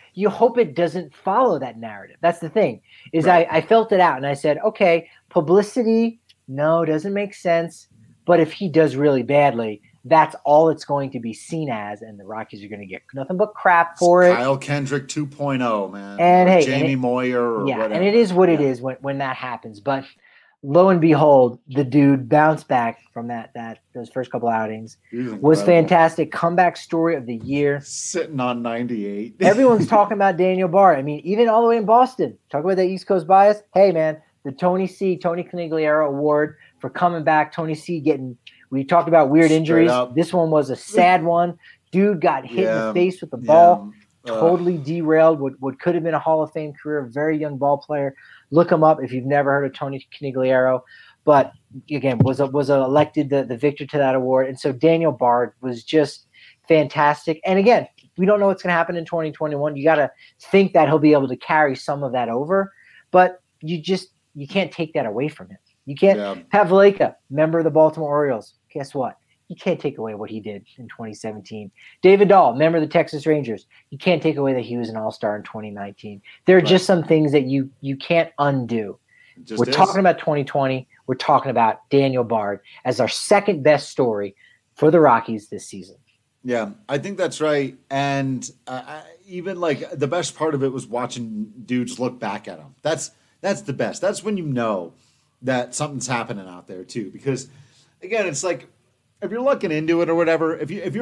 doesn't follow that narrative. That's the thing. Is right. I felt it out, and I said, okay, publicity, no, doesn't make sense. But if he does really badly, that's all it's going to be seen as, and the Rockies are going to get nothing but crap for it. Kyle Kendrick 2.0, man. And or Jamie Moyer or whatever. And it is what it is when that happens. But lo and behold, the dude bounced back from those first couple outings. Was fantastic. Comeback story of the year. Sitting on 98. Everyone's talking about Daniel Bard. I mean, even all the way in Boston. Talk about that East Coast bias. Hey, man, the Tony Conigliaro Award for coming back. Tony C we talked about weird injuries. This one was a sad one. Dude got hit in the face with the ball. Totally derailed what could have been a Hall of Fame career. Very young ball player. Look him up if you've never heard of Tony Conigliaro. But again, was elected the victor to that award. And so Daniel Bard was just fantastic. And again, we don't know what's going to happen in 2021. You got to think that he'll be able to carry some of that over. But you can't take that away from him. You can't have Vlaka, member of the Baltimore Orioles. Guess what? You can't take away what he did in 2017. David Dahl, member of the Texas Rangers. You can't take away that he was an all-star in 2019. There are just some things that you can't undo. We're talking about 2020. We're talking about Daniel Bard as our second best story for the Rockies this season. Yeah, I think that's right. And even like the best part of it was watching dudes look back at him. That's the best. That's when you know that something's happening out there too. Because again, it's like if you're looking into it or whatever,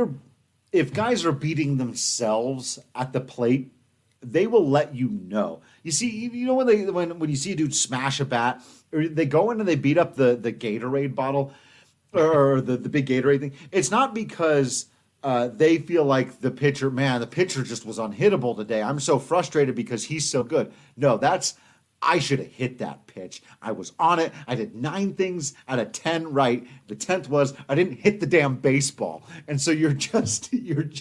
if guys are beating themselves at the plate, they will let you know. You see, you know when you see a dude smash a bat, or they go in and they beat up the Gatorade bottle or the big Gatorade thing. It's not because they feel like the pitcher just was unhittable today. I'm so frustrated because he's so good. No, I should have hit that pitch. I was on it. I did 9 things out of 10 right. The 10th was I didn't hit the damn baseball. And so you're just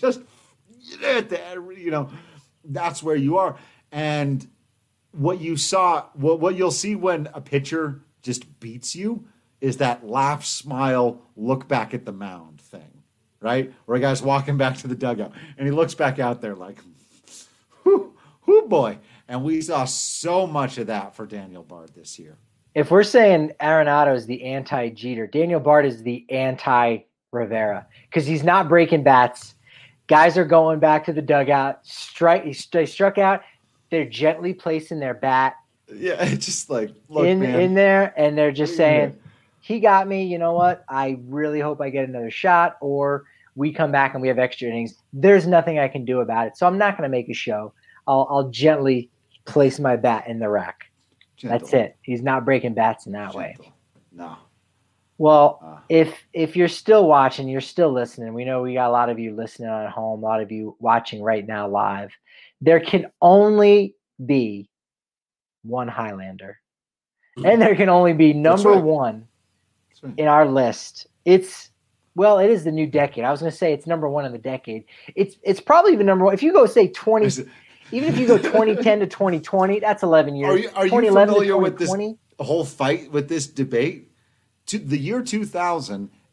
that's where you are. And what you saw, what you'll see when a pitcher just beats you is that laugh, smile, look back at the mound thing, right? Where a guy's walking back to the dugout and he looks back out there like, whoo boy. And we saw so much of that for Daniel Bard this year. If we're saying Arenado is the anti-Jeter, Daniel Bard is the anti-Rivera because he's not breaking bats. Guys are going back to the dugout. They struck out. They're gently placing their bat. Yeah, it's just like look, in there, and they're just saying, "He got me. You know what? I really hope I get another shot, or we come back and we have extra innings. There's nothing I can do about it, so I'm not going to make a show. I'll gently place my bat in the rack. Gentle. That's it. He's not breaking bats in that way. No. Well, if you're still watching, you're still listening. We know we got a lot of you listening at home, a lot of you watching right now live. There can only be one Highlander, and there can only be number one in our list. It is the new decade. I was going to say it's number one in the decade. It's probably the number one. If you go say 20, even if you go 2010 to 2020, that's 11 years. Are you familiar with this whole fight with this debate? The year 2000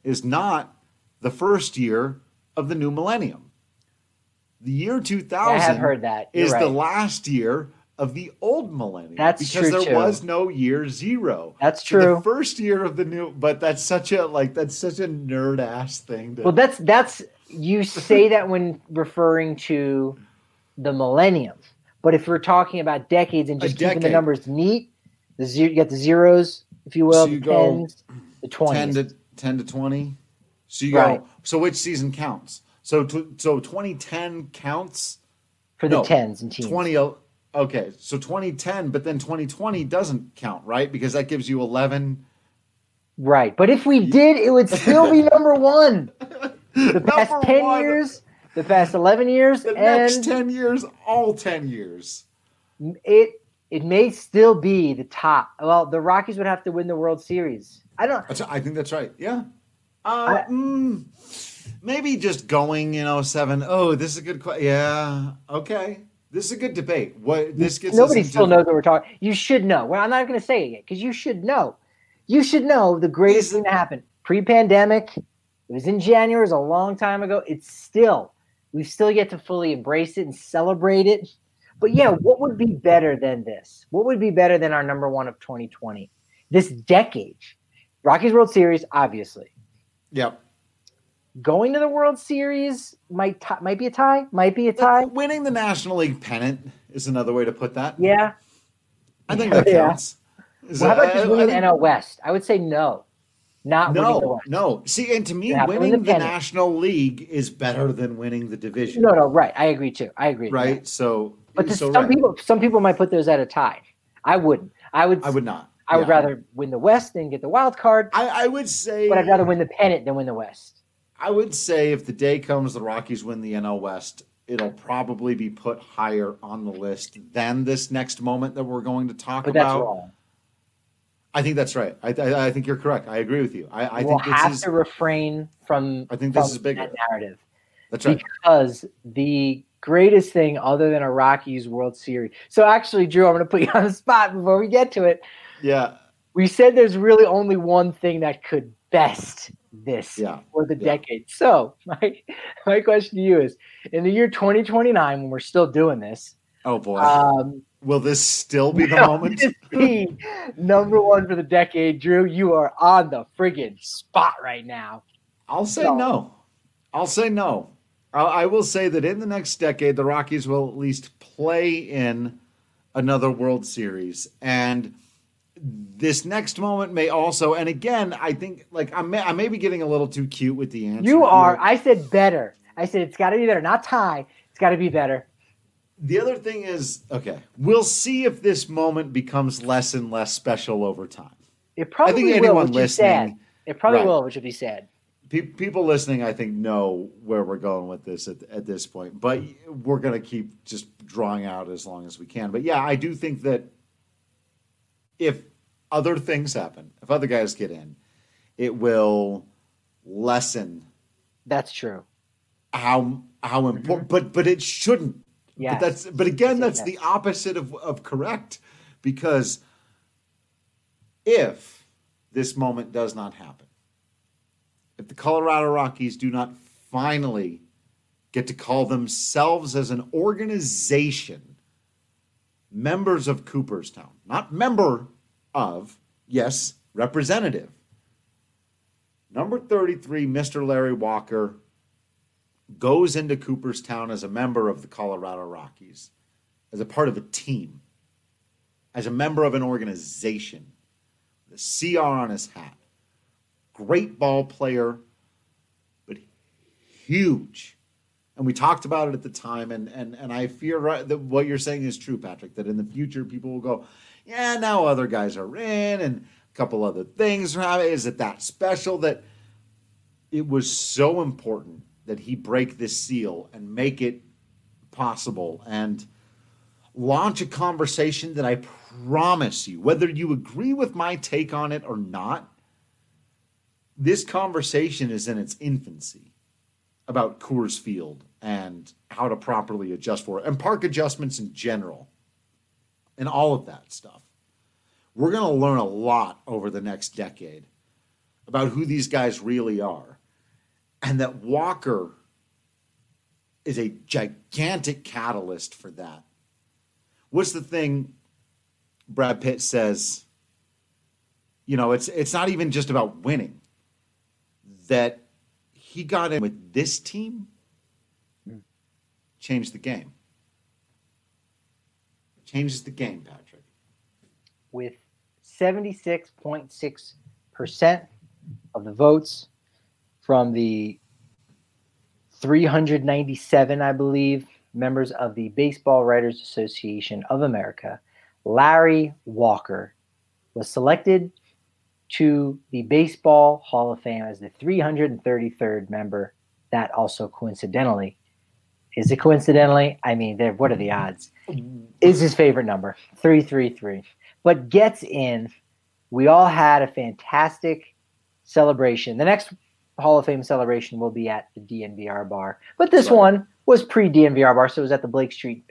is not the first year of the new millennium. The year 2000 I have heard that. Is right. The last year of the old millennium. That's because true, there was no year 0. That's so true. The first year of the new, but that's such a nerd ass thing. Well, that's you say that when referring to the millennium, but if we're talking about decades and just keeping the numbers neat, you got the zeros, if you will, so you the tens, the 20s, 10 to 20. So you go. So which season counts? So 2010 counts for the tens and teens. 20. Okay, so 2010, but then 2020 doesn't count, right? Because that gives you 11. Right, but if we did, it would still be number 1. The past 10 years, the past 11 years, the next 10 years, all 10 years. It may still be the top. Well, the Rockies would have to win the World Series. I think that's right. Yeah. Maybe just going, 7. Oh, this is a good question. Yeah. Okay. This is a good debate. Nobody still knows what we're talking. You should know. Well, I'm not going to say it yet because you should know. You should know the greatest thing that happened pre-pandemic. It was in January. It was a long time ago. We've still yet to fully embrace it and celebrate it. But yeah, what would be better than this? What would be better than our number 1 of 2020? This decade. Rockies World Series, obviously. Yep. Going to the World Series might be a tie. Might be a tie. Winning the National League pennant is another way to put that. Yeah. I think that counts. Well, how about just winning the NL West? I would say no. Winning the West. No. See, and to me, winning the National League is better than winning the division. No, right. I agree too. I agree. Right. So, but some people might put those at a tie. I wouldn't. I would not. I would rather win the West than get the wild card. I would say, but I'd rather win the pennant than win the West. I would say if the day comes the Rockies win the NL West, it'll probably be put higher on the list than this next moment that we're going to talk about. But that's wrong. I think that's right. I think you're correct. I agree with you. I we'll think have to refrain from. I think this is bigger. That narrative. That's right. Because the greatest thing other than a Rockies World Series. So actually, Drew, I'm going to put you on the spot before we get to it. Yeah. We said there's really only one thing that could best this for the decade. So my question to you is, in the year 2029, when we're still doing this, oh boy, will this still be the moment? Be number 1 for the decade, Drew. You are on the friggin' spot right now. I'll say no. I will say that in the next decade, the Rockies will at least play in another World Series, and this next moment may also, and again, I think I may be getting a little too cute with the answer. You are. I said better. I said it's got to be better, not tie. It's got to be better. The other thing is, okay, we'll see if this moment becomes less and less special over time. It probably I think will, anyone which listening, is sad. It probably will, which would be sad. People listening, I think, know where we're going with this at this point, but we're going to keep just drawing out as long as we can. But yeah, I do think that if other things happen, if other guys get in, it will lessen. That's true. How important, but it shouldn't. Yeah. But again, that's the opposite of correct, because if this moment does not happen, if the Colorado Rockies do not finally get to call themselves as an organization members of Cooperstown, not member of, yes, representative. Number 33, Mr. Larry Walker, goes into Cooperstown as a member of the Colorado Rockies, as a part of a team, as a member of an organization, the CR on his hat. Great ball player, but huge. And we talked about it at the time, and I fear that what you're saying is true, Patrick, that in the future people will go, yeah, now other guys are in, and a couple other things. Is it that special that it was so important that he break this seal and make it possible and launch a conversation that I promise you, whether you agree with my take on it or not, this conversation is in its infancy about Coors Field and how to properly adjust for it and park adjustments in general and all of that stuff. We're going to learn a lot over the next decade about who these guys really are, and that Walker is a gigantic catalyst for that. What's the thing Brad Pitt says? You know, it's not even just about winning. That he got in with this team, changed the game. Changes the game, Patrick. With 76.6% of the votes from the 397, I believe, members of the Baseball Writers Association of America, Larry Walker was selected to the Baseball Hall of Fame as the 333rd member. That also coincidentally, is it coincidentally? I mean, what are the odds? Is his favorite number, 333. But gets in. We all had a fantastic celebration. The next Hall of Fame celebration will be at the DNVR bar. But this one was pre-DNVR bar, so it was at the Blake Street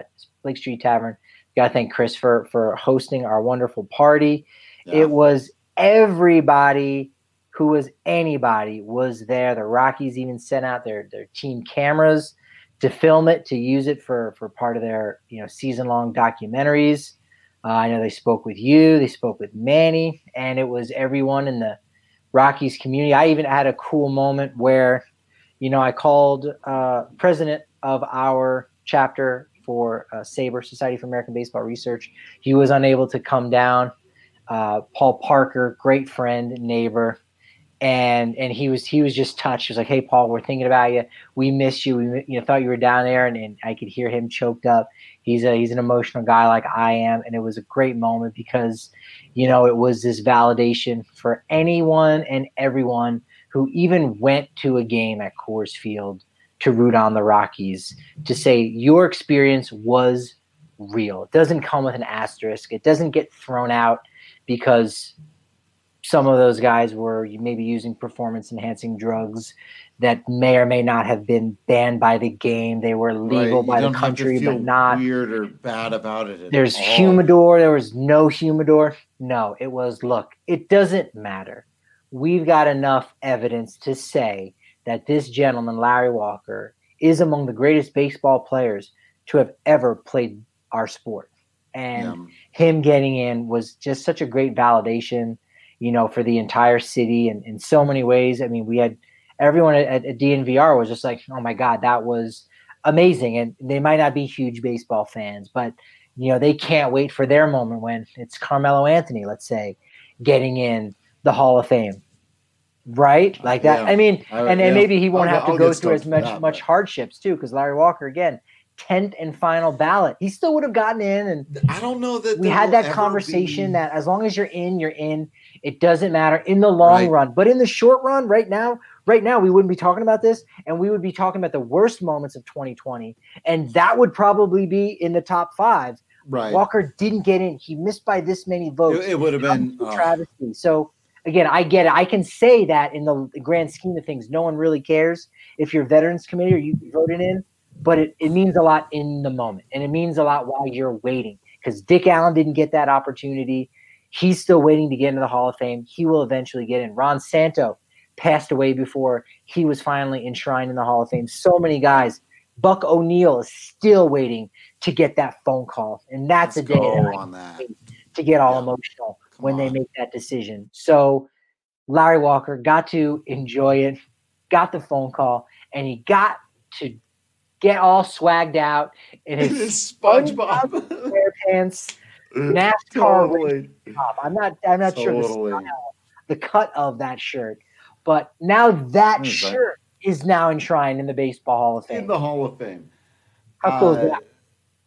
Tavern. Got to thank Chris for hosting our wonderful party. Yeah. It was everybody who was anybody was there. The Rockies even sent out their team cameras to film it, to use it for part of their season-long documentaries. I know they spoke with you, they spoke with Manny, and it was everyone in the Rockies community. I even had a cool moment where, I called president of our chapter for SABR, Society for American Baseball Research. He was unable to come down. Paul Parker, great friend, neighbor, and he was just touched. He was like, "Hey, Paul, we're thinking about you. We miss you. We thought you were down there," and I could hear him choked up. He's an emotional guy like I am, and it was a great moment because, it was this validation for anyone and everyone who even went to a game at Coors Field to root on the Rockies, to say your experience was real. It doesn't come with an asterisk. It doesn't get thrown out because some of those guys were maybe using performance-enhancing drugs that may or may not have been banned by the game. They were legal by the country, but not weird or bad about it. There's humidor. There was no humidor. No, it was, look, it doesn't matter. We've got enough evidence to say that this gentleman, Larry Walker, is among the greatest baseball players to have ever played our sport. And him getting in was just such a great validation, for the entire city and in so many ways. I mean, we had everyone at DNVR was just like, oh my God, that was amazing. And they might not be huge baseball fans, but, they can't wait for their moment when it's Carmelo Anthony, let's say, getting in the Hall of Fame. Right? Like that. Yeah. I mean, and maybe he won't have to go through as much hardships too, because Larry Walker, again, 10th and final ballot. He still would have gotten in, and I don't know that we had that conversation that as long as you're in, you're in. It doesn't matter in the long run, but in the short run, right now, we wouldn't be talking about this, and we would be talking about the worst moments of 2020, and that would probably be in the top 5. Right. Walker didn't get in; he missed by this many votes. It would have been travesty. So again, I get it. I can say that in the grand scheme of things, no one really cares if you're Veterans Committee or you voted in. But it means a lot in the moment, and it means a lot while you're waiting, because Dick Allen didn't get that opportunity. He's still waiting to get into the Hall of Fame. He will eventually get in. Ron Santo passed away before he was finally enshrined in the Hall of Fame. So many guys. Buck O'Neil is still waiting to get that phone call, and that's a day to get all emotional when they make that decision. So Larry Walker got to enjoy it, got the phone call, and he got to get all swagged out in his SpongeBob SquarePants NASCAR top. I'm not sure the cut of that shirt, but now that shirt is now enshrined in the Baseball Hall of Fame. In the Hall of Fame. How cool is that?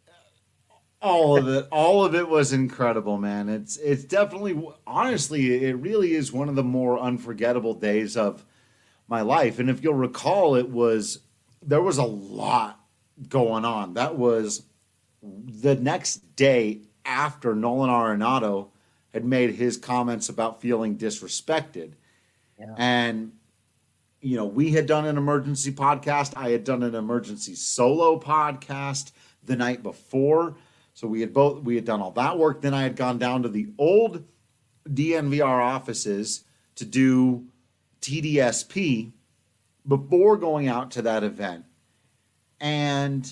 All of it was incredible, man. It's definitely, honestly, it really is one of the more unforgettable days of my life. And if you'll recall, there was a lot going on. That was the next day after Nolan Arenado had made his comments about feeling disrespected. Yeah. And, we had done an emergency podcast. I had done an emergency solo podcast the night before. So we had done all that work. Then I had gone down to the old DNVR offices to do TDSP before going out to that event. And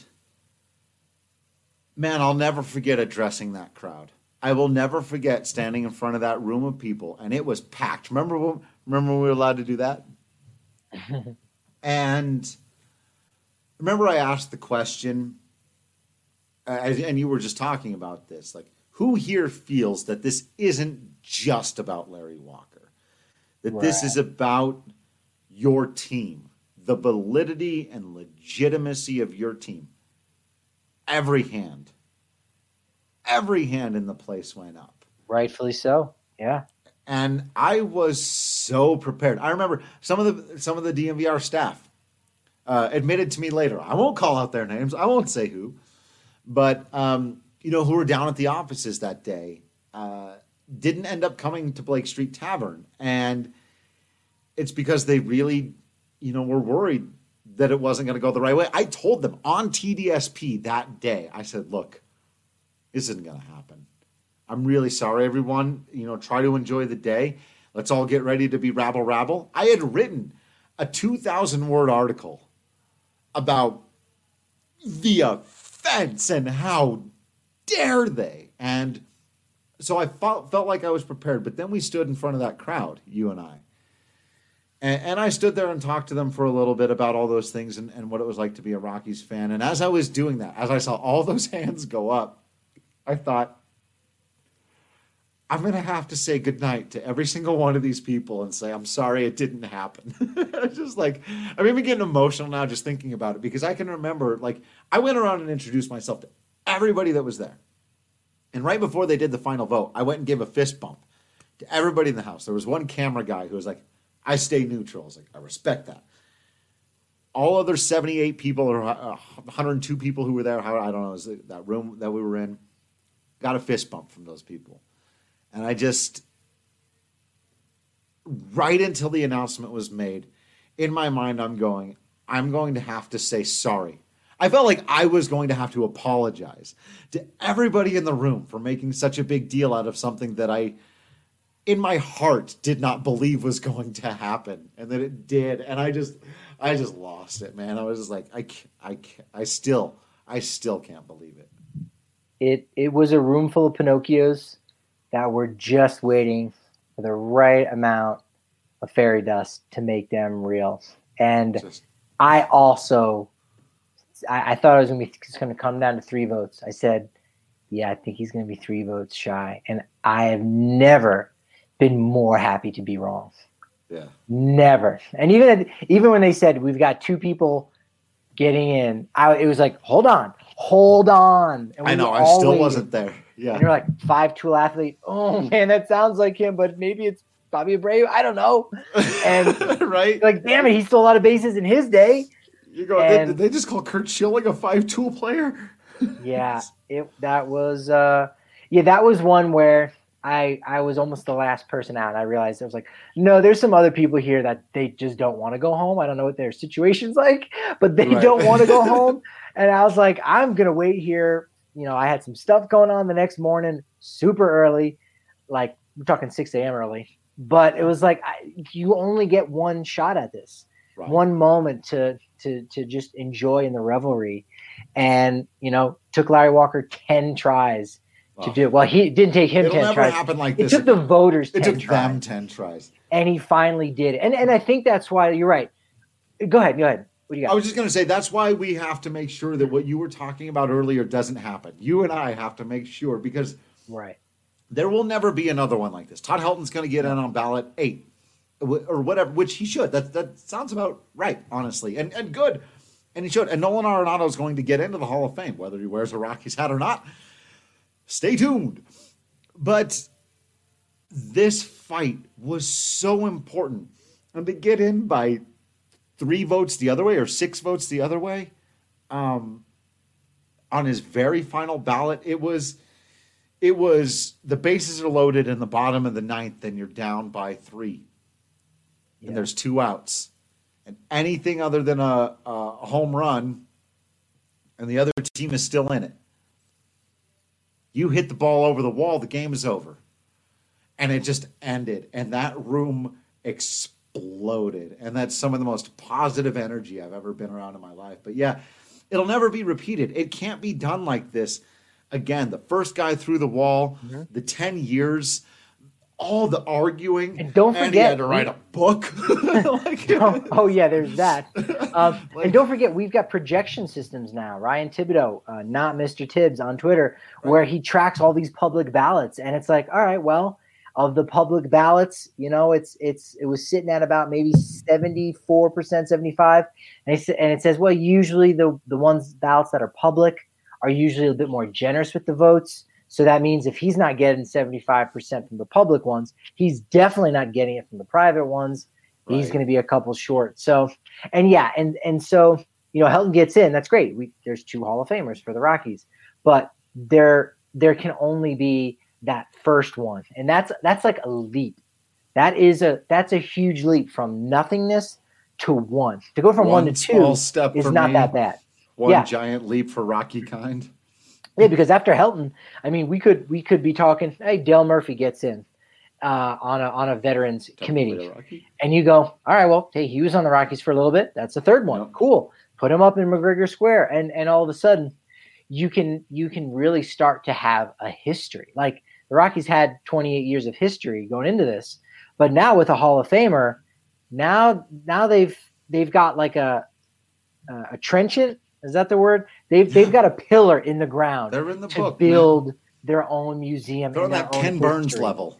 man, I'll never forget addressing that crowd. I will never forget standing in front of that room of people, and it was packed. Remember when we were allowed to do that? And remember I asked the question, and you were just talking about this, like, who here feels that this isn't just about Larry Walker? That this is about your team, the validity and legitimacy of your team. Every hand in the place went up. Rightfully so. Yeah. And I was so prepared. I remember some of the DNVR staff admitted to me later. I won't call out their names. I won't say who, but who were down at the offices that day, didn't end up coming to Blake Street Tavern, and it's because they really, were worried that it wasn't going to go the right way. I told them on TDSP that day. I said, "Look, this isn't going to happen. I'm really sorry, everyone. Try to enjoy the day. Let's all get ready to be rabble." I had written a 2,000-word article about the offense and how dare they. And so I felt like I was prepared. But then we stood in front of that crowd, you and I. And I stood there and talked to them for a little bit about all those things and what it was like to be a Rockies fan. And as I was doing that, as I saw all those hands go up, I thought, I'm going to have to say goodnight to every single one of these people and say, I'm sorry it didn't happen. Just like, I'm even getting emotional now just thinking about it, because I can remember, like, I went around and introduced myself to everybody that was there. And right before they did the final vote, I went and gave a fist bump to everybody in the house. There was one camera guy who was like, I stay neutral. I was like, I respect that. All other 78 people or 102 people who were there, I don't know, was that room that we were in, got a fist bump from those people. And I just, right until the announcement was made, in my mind, I'm going to have to say sorry. I felt like I was going to have to apologize to everybody in the room for making such a big deal out of something that I, in my heart, did not believe was going to happen, and that it did. And I just lost it, man. I was just like, I still can't believe it. It was a room full of Pinocchios that were just waiting for the right amount of fairy dust to make them real. And I thought it was going to come down to 3 votes. I said, yeah, I think he's going to be 3 votes shy. And I have never been more happy to be wrong. Yeah. Never. And even when they said we've got 2 people getting in, it was like, hold on. And I know, I still wasn't there. Yeah. And you're like, 5'2" athlete. Oh man, that sounds like him, but maybe it's Bobby Abreu. I don't know. And right. Like, damn it, he stole a lot of bases in his day. You go, did they just call Curt Schilling a 5'2" player? Yeah. That was one where I was almost the last person out. I realized I was like, no, there's some other people here that they just don't want to go home. I don't know what their situation's like, but they don't want to go home. And I was like, I'm going to wait here. I had some stuff going on the next morning, super early, like we're talking 6 a.m. early. But it was like, you only get one shot at this, one moment to just enjoy in the revelry. And, took Larry Walker 10 tries to do it. Well, he didn't take him 10 tries. It'll never happen like this. It took the voters 10 tries. It took them 10 tries. And he finally did it. And I think that's why you're right. Go ahead. What do you got? I was just going to say, that's why we have to make sure that what you were talking about earlier doesn't happen. You and I have to make sure, because there will never be another one like this. Todd Helton's going to get in on ballot 8 or whatever, which he should. That sounds about right, honestly, and good. And he should. And Nolan Arenado is going to get into the Hall of Fame, whether he wears a Rockies hat or not. Stay tuned. But this fight was so important. And to get in by 3 votes the other way or 6 votes the other way, on his very final ballot, it was the bases are loaded in the bottom of the 9th and you're down by 3. Yeah. And there's 2 outs. And anything other than a home run and the other team is still in it. You hit the ball over the wall, the game is over. And it just ended. And that room exploded. And that's some of the most positive energy I've ever been around in my life. But yeah, it'll never be repeated. It can't be done like this again. The first guy through the wall, the 10 years, all the arguing. And don't forget, he had to write a book. Oh yeah, there's that. And don't forget, we've got projection systems now. Ryan Thibodeau, not Mr. Tibbs on Twitter, where he tracks all these public ballots. And it's like, all right, well, of the public ballots, you know, it was sitting at about maybe 74%, 75%. And it says, well, usually the ballots that are public are usually a bit more generous with the votes. So that means if he's not getting 75% from the public ones, he's definitely not getting it from the private ones. Right. He's going to be a couple short. So, and yeah, and so, you know, Helton gets in. That's great. There's 2 Hall of Famers for the Rockies, but there can only be that first one, and that's like a leap. That's a huge leap from nothingness to 1. To go from 1 to 2 step is not that bad. One giant leap for Rocky kind. Yeah, because after Helton, I mean, we could be talking. Hey, Dale Murphy gets in on a veterans committee, and you go, all right, well, hey, he was on the Rockies for a little bit. That's the third one. Yep. Cool. Put him up in McGregor Square, and all of a sudden, you can really start to have a history. Like the Rockies had 28 years of history going into this, but now with a Hall of Famer, now they've got like a trenchant. Is that the word? They've got a pillar in the ground. They're in the to book, build their own museum. They're on that Ken Burns level.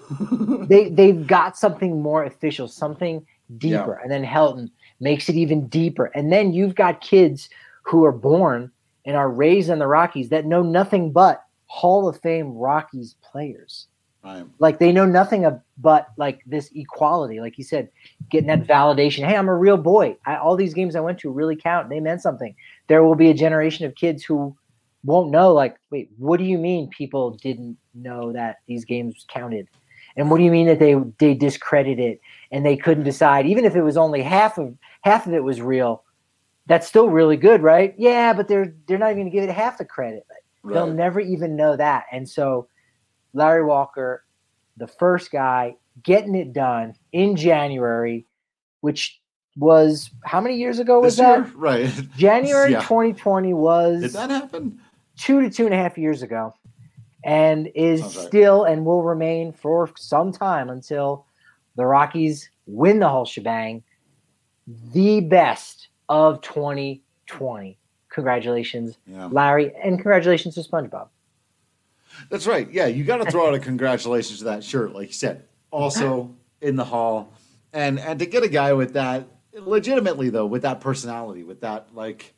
They've got something more official, something deeper. Yeah. And then Helton makes it even deeper. And then you've got kids who are born and are raised in the Rockies that know nothing but Hall of Fame Rockies players. Right. Like they know nothing but like this equality, like you said, getting that validation. Hey, I'm a real boy. All these games I went to really count. They meant something. There will be a generation of kids who won't know, like, wait, what do you mean people didn't know that these games counted? And what do you mean that they discredit it and they couldn't decide, even if it was only half of it was real? That's still really good, right? Yeah, but they're not even going to give it half the credit. Right. They'll never even know that. And so Larry Walker, the first guy getting it done in January, which was how many years ago was that? Right. January 2020 was. Did that happen? 2 to 2.5 years ago, and is still and will remain for some time until the Rockies win the whole shebang. The best of 2020. Congratulations, Larry, and congratulations to SpongeBob. That's right. Yeah, you got to throw out a congratulations to that shirt, like you said. Also in the Hall, and to get a guy with that, legitimately though, with that personality, with that like,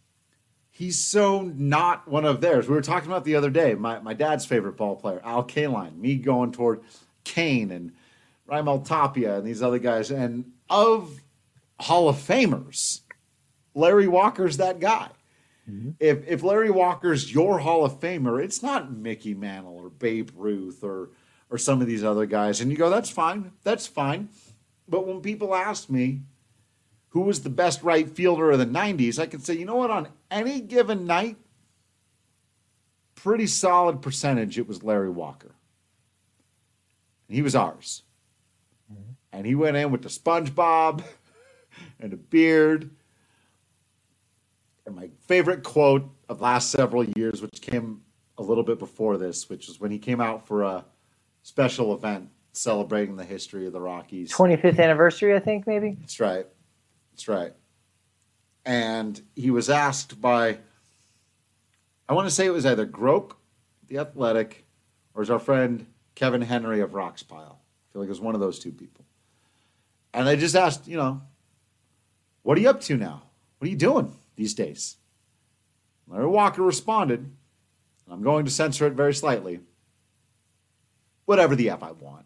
he's so not one of theirs. We were talking about the other day. My dad's favorite ball player, Al Kaline. Me going toward Kane and Raimel Tapia and these other guys, and of Hall of Famers, Larry Walker's that guy. Mm-hmm. If Larry Walker's your Hall of Famer, it's not Mickey Mantle or Babe Ruth or some of these other guys. And you go, that's fine. That's fine. But when people ask me who was the best right fielder of the 90s, I can say, you know what, on any given night, pretty solid percentage, it was Larry Walker. And he was ours. Mm-hmm. And he went in with the SpongeBob and a beard. And my favorite quote of last several years, which came a little bit before this, which was when he came out for a special event celebrating the history of the Rockies. 25th anniversary, I think, maybe? That's right. That's right. And he was asked by, I want to say it was either Groke, The Athletic, or is our friend Kevin Henry of Roxpile. I feel like it was one of those two people. And they just asked, what are you up to now? What are you doing these days? Larry Walker responded, and I'm going to censor it very slightly, whatever the F I want.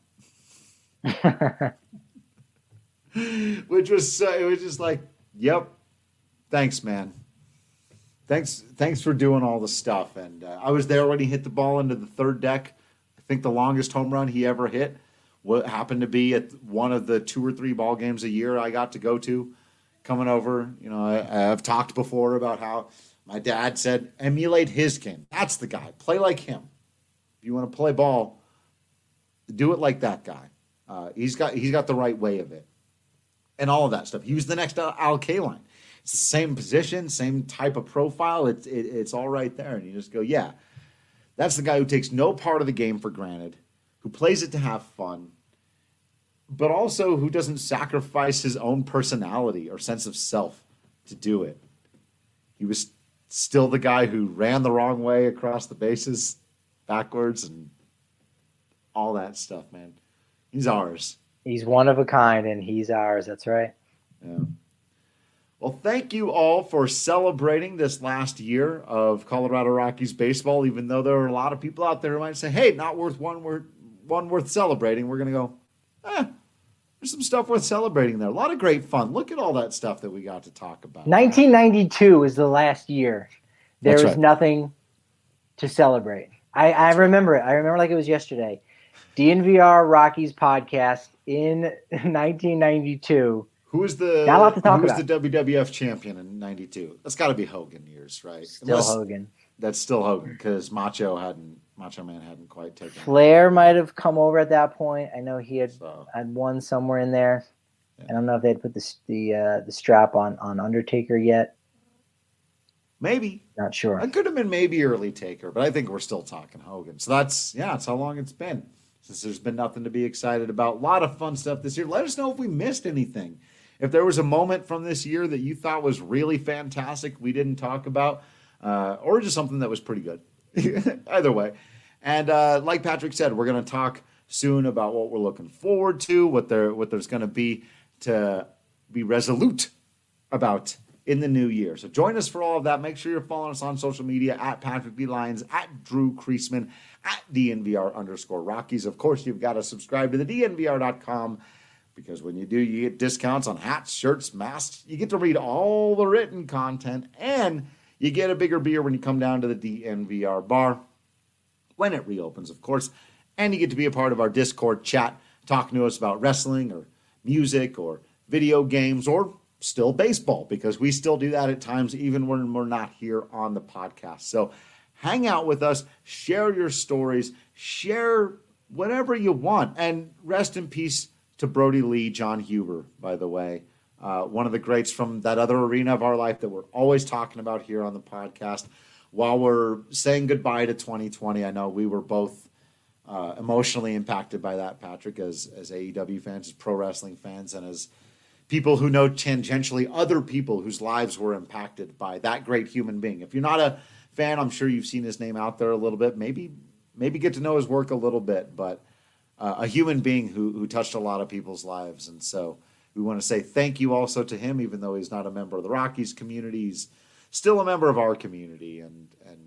Which was, it was just like, yep, thanks, man. Thanks for doing all the stuff. And I was there when he hit the ball into the third deck. I think the longest home run he ever hit what happened to be at one of the 2 or 3 ball games a year I got to go to. Coming over, I've talked before about how my dad said, emulate his game. That's the guy. Play like him. If you want to play ball, do it like that guy. He's got the right way of it, and all of that stuff. He was the next Al Kaline. It's the same position, same type of profile. It's all right there, and you just go, yeah, that's the guy who takes no part of the game for granted, who plays it to have fun, but also who doesn't sacrifice his own personality or sense of self to do it. He was still the guy who ran the wrong way across the bases, backwards, and all that stuff, man. He's ours. He's one of a kind, and he's ours. That's right. Yeah. Well, thank you all for celebrating this last year of Colorado Rockies baseball, even though there are a lot of people out there who might say, hey, not worth one worth celebrating. We're going to go, there's some stuff worth celebrating there. A lot of great fun. Look at all that stuff that we got to talk about. 1992 is the last year. There was nothing to celebrate. I remember it. I remember like it was yesterday. DNVR Rockies podcast in 1992. Who was the WWF champion in '92? That's got to be Hogan years, right? Hogan. That's still Hogan because Macho Man hadn't quite taken. Flair might have come over at that point. I know he had won somewhere in there. Yeah. I don't know if they'd put the strap on Undertaker yet. Maybe. Not sure. It could have been maybe early Taker, but I think we're still talking Hogan. So that's how long it's been since there's been nothing to be excited about. A lot of fun stuff this year. Let us know if we missed anything. If there was a moment from this year that you thought was really fantastic we didn't talk about, or just something that was pretty good. Either way. And like Patrick said, we're going to talk soon about what we're looking forward to, what there's going to be resolute about in the new year. So join us for all of that. Make sure you're following us on social media at Patrick B. Lyons, at Drew Creasman, at DNVR_Rockies. Of course, you've got to subscribe to the DNVR.com because when you do, you get discounts on hats, shirts, masks. You get to read all the written content, and you get a bigger beer when you come down to the DNVR bar when it reopens, of course. And you get to be a part of our Discord chat, talking to us about wrestling or music or video games or still baseball, because we still do that at times even when we're not here on the podcast. So hang out with us, share your stories, share whatever you want. And rest in peace to Brody Lee, John Huber, by the way. One of the greats from that other arena of our life that we're always talking about here on the podcast. While we're saying goodbye to 2020, I know we were both emotionally impacted by that, Patrick, as AEW fans, as pro wrestling fans, and as people who know tangentially other people whose lives were impacted by that great human being. If you're not a fan, I'm sure you've seen his name out there a little bit. Maybe get to know his work a little bit, but a human being who touched a lot of people's lives. And so we want to say thank you also to him, even though he's not a member of the Rockies community. He's still a member of our community. And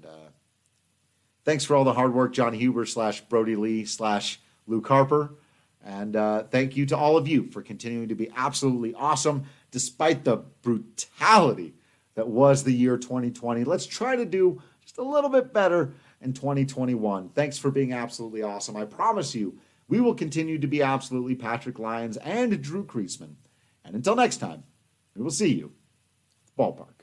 thanks for all the hard work, John Huber / Brody Lee / Luke Harper. And thank you to all of you for continuing to be absolutely awesome, despite the brutality that was the year 2020. Let's try to do just a little bit better in 2021. Thanks for being absolutely awesome. I promise you, we will continue to be absolutely Patrick Lyons and Drew Creasman. And until next time, we will see you at the ballpark.